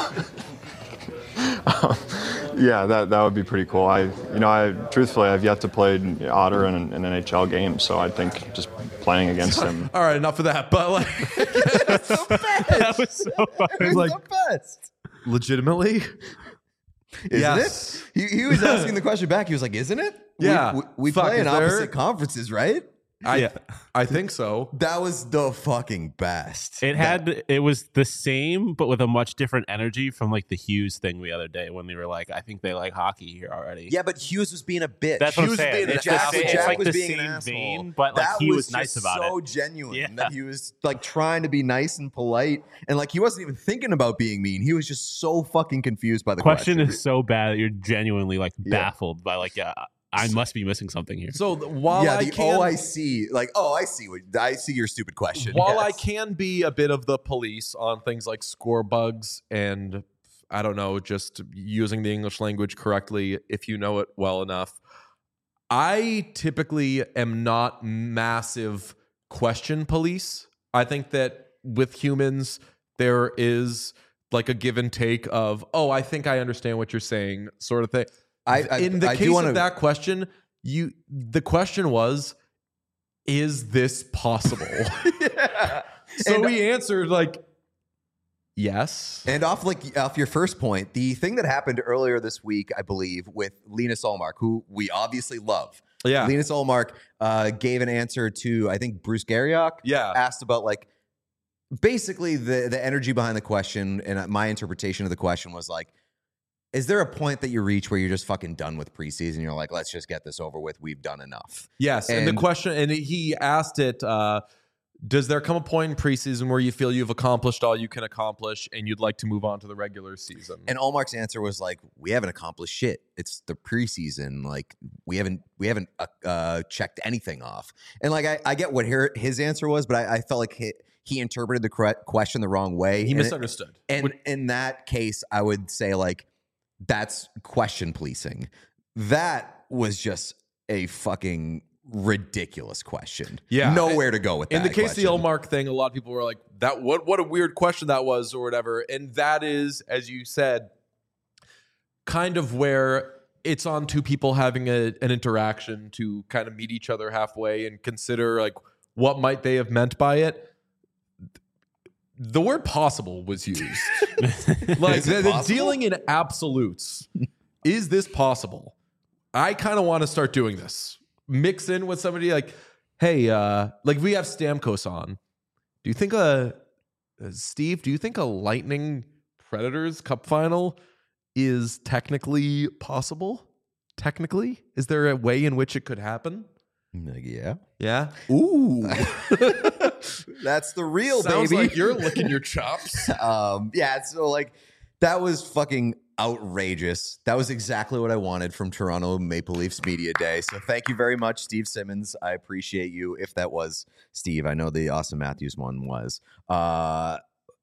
Yeah, that would be pretty cool. I truthfully, I've yet to play Otter in an NHL game, so I think just playing against him. All right, enough of that. But like, That was so funny. like the best. legitimately. Isn't Yes. it? He was asking the question back. He was like, isn't it? Yeah. We Fuck, play in is there- opposite conferences, right? I think so. That was the fucking best. It was the same, but with a much different energy from like the Hughes thing the other day when they were like, I think they like hockey here already. Yeah, but Hughes was being a bitch. That's what I'm Hughes was saying. being It's an asshole. it's Jack like was the being an same asshole. vein, but like That he was just nice about so it. genuine Yeah. that he was like trying to be nice and polite, and like he wasn't even thinking about being mean. He was just so fucking confused by the Question question. is so bad that you're genuinely like baffled by like, I must be missing something here. So while yeah, I the can, OIC, like, I see your stupid question. while I Yes. can be a bit of the police on things like score bugs and I don't know, just using the English language correctly if you know it well enough, I typically am not massive question police. I think that with humans, there is like a give and take of, I think I understand what you're saying, sort of thing. In the case of that question, the question was, is this possible? So he answered like, Yes. And off your first point, the thing that happened earlier this week, I believe, with Linus Ullmark, who we obviously love. Yeah. Linus Ullmark gave an answer to, I think, Bruce Garriock. Yeah. Asked about like basically the energy behind the question, and my interpretation of the question was like, is there a point that you reach where you're just fucking done with preseason? You're like, let's just get this over with. We've done enough. Yes. And the question, and he asked it, does there come a point in preseason where you feel you've accomplished all you can accomplish and you'd like to move on to the regular season? And Ullmark's answer was like, we haven't accomplished shit. It's the preseason. Like we haven't checked anything off. And like, I get what his answer was, but I felt like he interpreted the correct question the wrong way. He misunderstood. And in that case, I would say like, that's question policing. That was just a fucking ridiculous question. Yeah. Nowhere to go with that. In the case question. of the Ullmark thing, a lot of people were like, "That what a weird question that was," or whatever. And that is, as you said, kind of where it's on two people having an interaction to kind of meet each other halfway and consider like what might they have meant by it. The word possible was used. Like the dealing in absolutes. Is this possible? I kind of want to start doing this. Mix in with somebody like, hey, like we have Stamkos on. Do you think Steve, do you think a Lightning Predators Cup final is technically possible? Technically? Is there a way in which it could happen? Yeah. Yeah? Ooh. That's the real Sounds baby. like you're licking your chops. Yeah, so like that was fucking outrageous. That was exactly what I wanted from Toronto Maple Leafs Media Day. So thank you very much, Steve Simmons. I appreciate you. If that was Steve, I know the Austin Matthews one was. The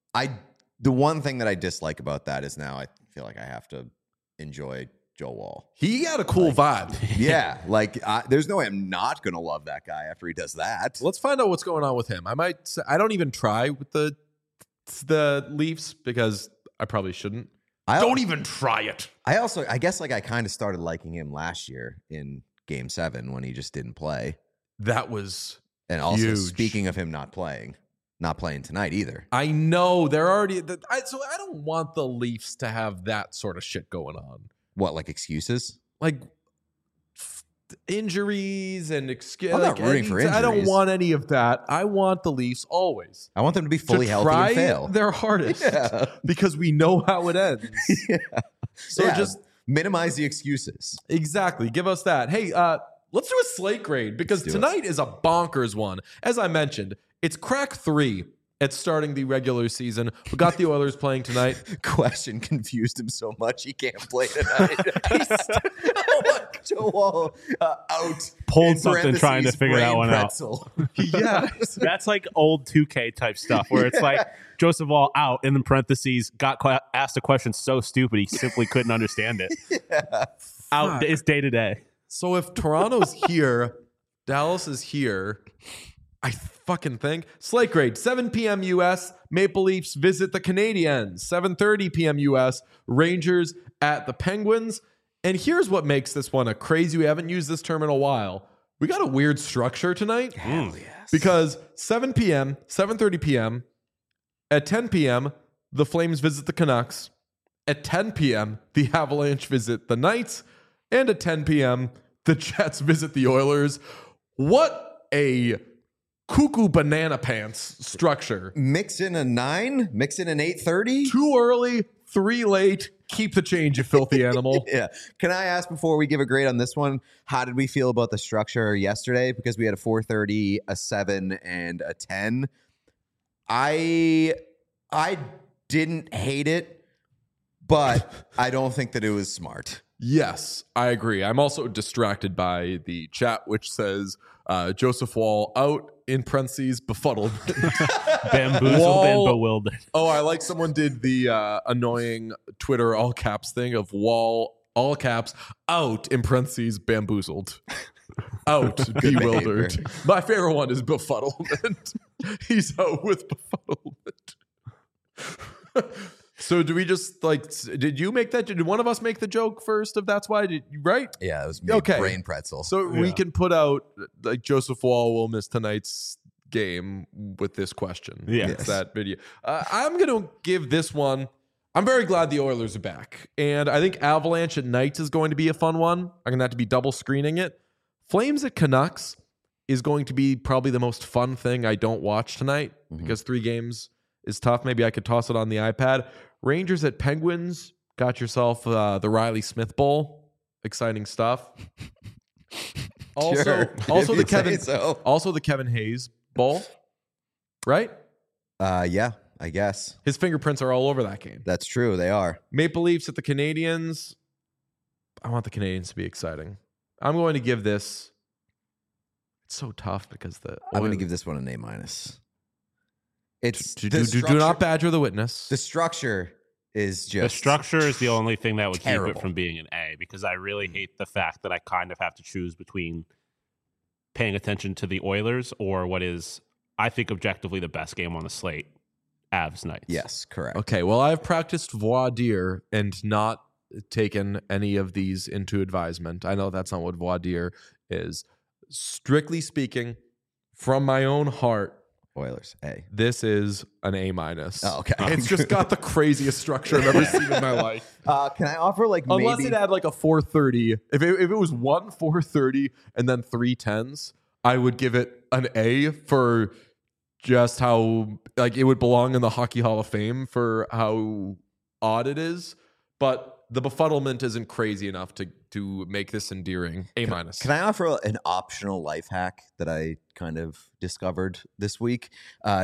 one thing that I dislike about that is now I feel like I have to enjoy Joe Wall. He got a cool vibe. Yeah, like there's no way I'm not gonna love that guy after he does that. Let's find out what's going on with him. I don't even try with the Leafs because I probably shouldn't. Don't even try it. I guess like I kind of started liking him last year in Game 7 when he just didn't play. That was and also huge. Speaking of him not playing tonight either. I know they're already. So I don't want the Leafs to have that sort of shit going on. What, like excuses? Like injuries and excuses. I'm not rooting for injuries. I don't want any of that. I want the Leafs always. I want them to be fully healthy try and fail. Their hardest Yeah. because we know how it ends. Yeah. So just minimize the excuses. Exactly. Give us that. Hey, let's do a slate grade because tonight is a bonkers one. As I mentioned, it's crack 3 at starting the regular season. We got the Oilers playing tonight. Question confused him so much he can't play tonight. Joe Wall out. Pulled something trying to figure that one pretzel. out. Yeah, that's like old 2K type stuff where it's like Joseph Wall out in the parentheses got asked a question so stupid he simply couldn't understand it. Yeah. Out. It's day to day. So if Toronto's here, Dallas is here. I fucking think. Slate grade, 7 p.m. U.S. Maple Leafs visit the Canadiens. 7:30 p.m. U.S. Rangers at the Penguins. And here's what makes this one a crazy. We haven't used this term in a while. We got a weird structure tonight. Hell yes. Because 7 p.m., 7:30 p.m., at 10 p.m., the Flames visit the Canucks. At 10 p.m., the Avalanche visit the Knights. And at 10 p.m., the Jets visit the Oilers. What a cuckoo banana pants structure. Mix in a 9, mix in an 8:30. 2 early, 3 late. Keep the change, you filthy animal. Yeah. Can I ask before we give a grade on this one, how did we feel about the structure yesterday? Because we had a 4:30, a 7, and a 10. I didn't hate it, but I don't think that it was smart. Yes, I agree. I'm also distracted by the chat, which says Joseph Wall out in parentheses, befuddled. Bamboozled and bewildered. Oh, I like someone did the annoying Twitter all caps thing of Wall all caps out in parentheses, bamboozled. Out, bewildered. behavior. My favorite one is befuddlement. He's out with befuddlement. So do we just did you make that? Did one of us make the joke first of that's why? Right? Yeah, it was me, Okay. brain pretzel. So we can put out like Joseph Wall will miss tonight's game with this question. Yes. It's that video. I'm going to give this one. I'm very glad the Oilers are back. And I think Avalanche at Knights is going to be a fun one. I'm going to have to be double screening it. Flames at Canucks is going to be probably the most fun thing I don't watch tonight because 3 games is tough. Maybe I could toss it on the iPad. Rangers at Penguins. Got yourself the Riley Smith Bowl. Exciting stuff. Also the Kevin Hayes Bowl. Right? Yeah, I guess. His fingerprints are all over that game. That's true. They are. Maple Leafs at the Canadiens. I want the Canadiens to be exciting. I'm going to give this. It's so tough because I'm going to give this one an A-. It's do not badger the witness. The structure is just the structure is the only thing that would terrible. keep it from being an A, because I really hate the fact that I kind of have to choose between paying attention to the Oilers or what is, I think, objectively the best game on the slate, Avs Knights. Yes, correct. Okay, well, I've practiced voir dire and not taken any of these into advisement. I know that's not what voir dire is. Strictly speaking, from my own heart, Oilers, A. This is an A-. Oh, okay. It's just got the craziest structure I've ever seen in my life. Can I offer Unless it had like a 430. If it was 1 430 and then 3 10s, I would give it an A for just how it would belong in the Hockey Hall of Fame for how odd it is. But the befuddlement isn't crazy enough to make this endearing. A-. Can I offer an optional life hack that I kind of discovered this week? I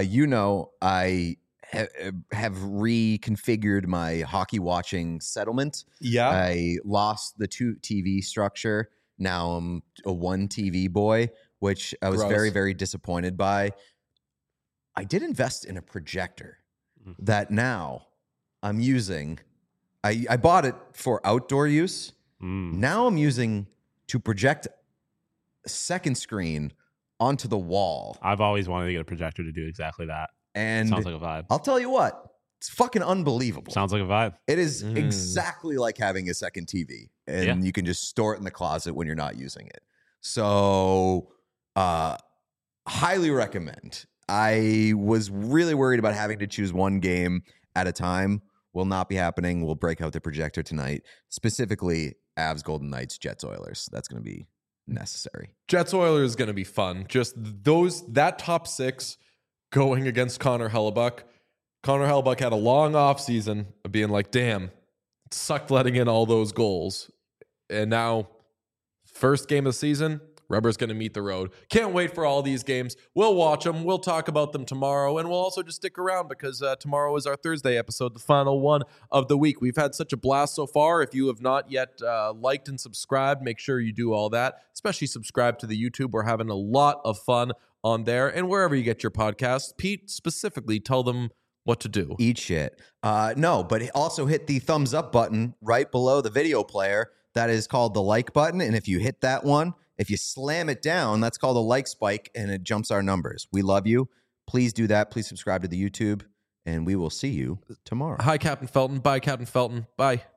have reconfigured my hockey watching settlement. Yeah. I lost the 2 TV structure. Now I'm a 1 TV boy, which I was very, very disappointed by. I did invest in a projector that now I'm using. I bought it for outdoor use. Now I'm using to project a second screen onto the wall. I've always wanted to get a projector to do exactly that. And sounds like a vibe. I'll tell you what, it's fucking unbelievable. Sounds like a vibe. It is exactly like having a second TV, and you can just store it in the closet when you're not using it. So, highly recommend. I was really worried about having to choose one game at a time. Will not be happening. We'll break out the projector tonight. Specifically, Avs Golden Knights, Jets Oilers. That's going to be necessary. Jets Oilers is going to be fun. Just that top 6 going against Connor Hellebuyck. Connor Hellebuyck had a long offseason of being like, damn, it sucked letting in all those goals. And now, first game of the season, Rubber's going to meet the road. Can't wait for all these games. We'll watch them. We'll talk about them tomorrow. And we'll also just stick around because tomorrow is our Thursday episode, the final one of the week. We've had such a blast so far. If you have not yet liked and subscribed, make sure you do all that. Especially subscribe to the YouTube. We're having a lot of fun on there. And wherever you get your podcasts, Pete, specifically, tell them what to do. Eat shit. No, but also hit the thumbs up button right below the video player. That is called the like button. And if you hit that one, if you slam it down, that's called a like spike, and it jumps our numbers. We love you. Please do that. Please subscribe to the YouTube, and we will see you tomorrow. Hi, Captain Felton. Bye, Captain Felton. Bye.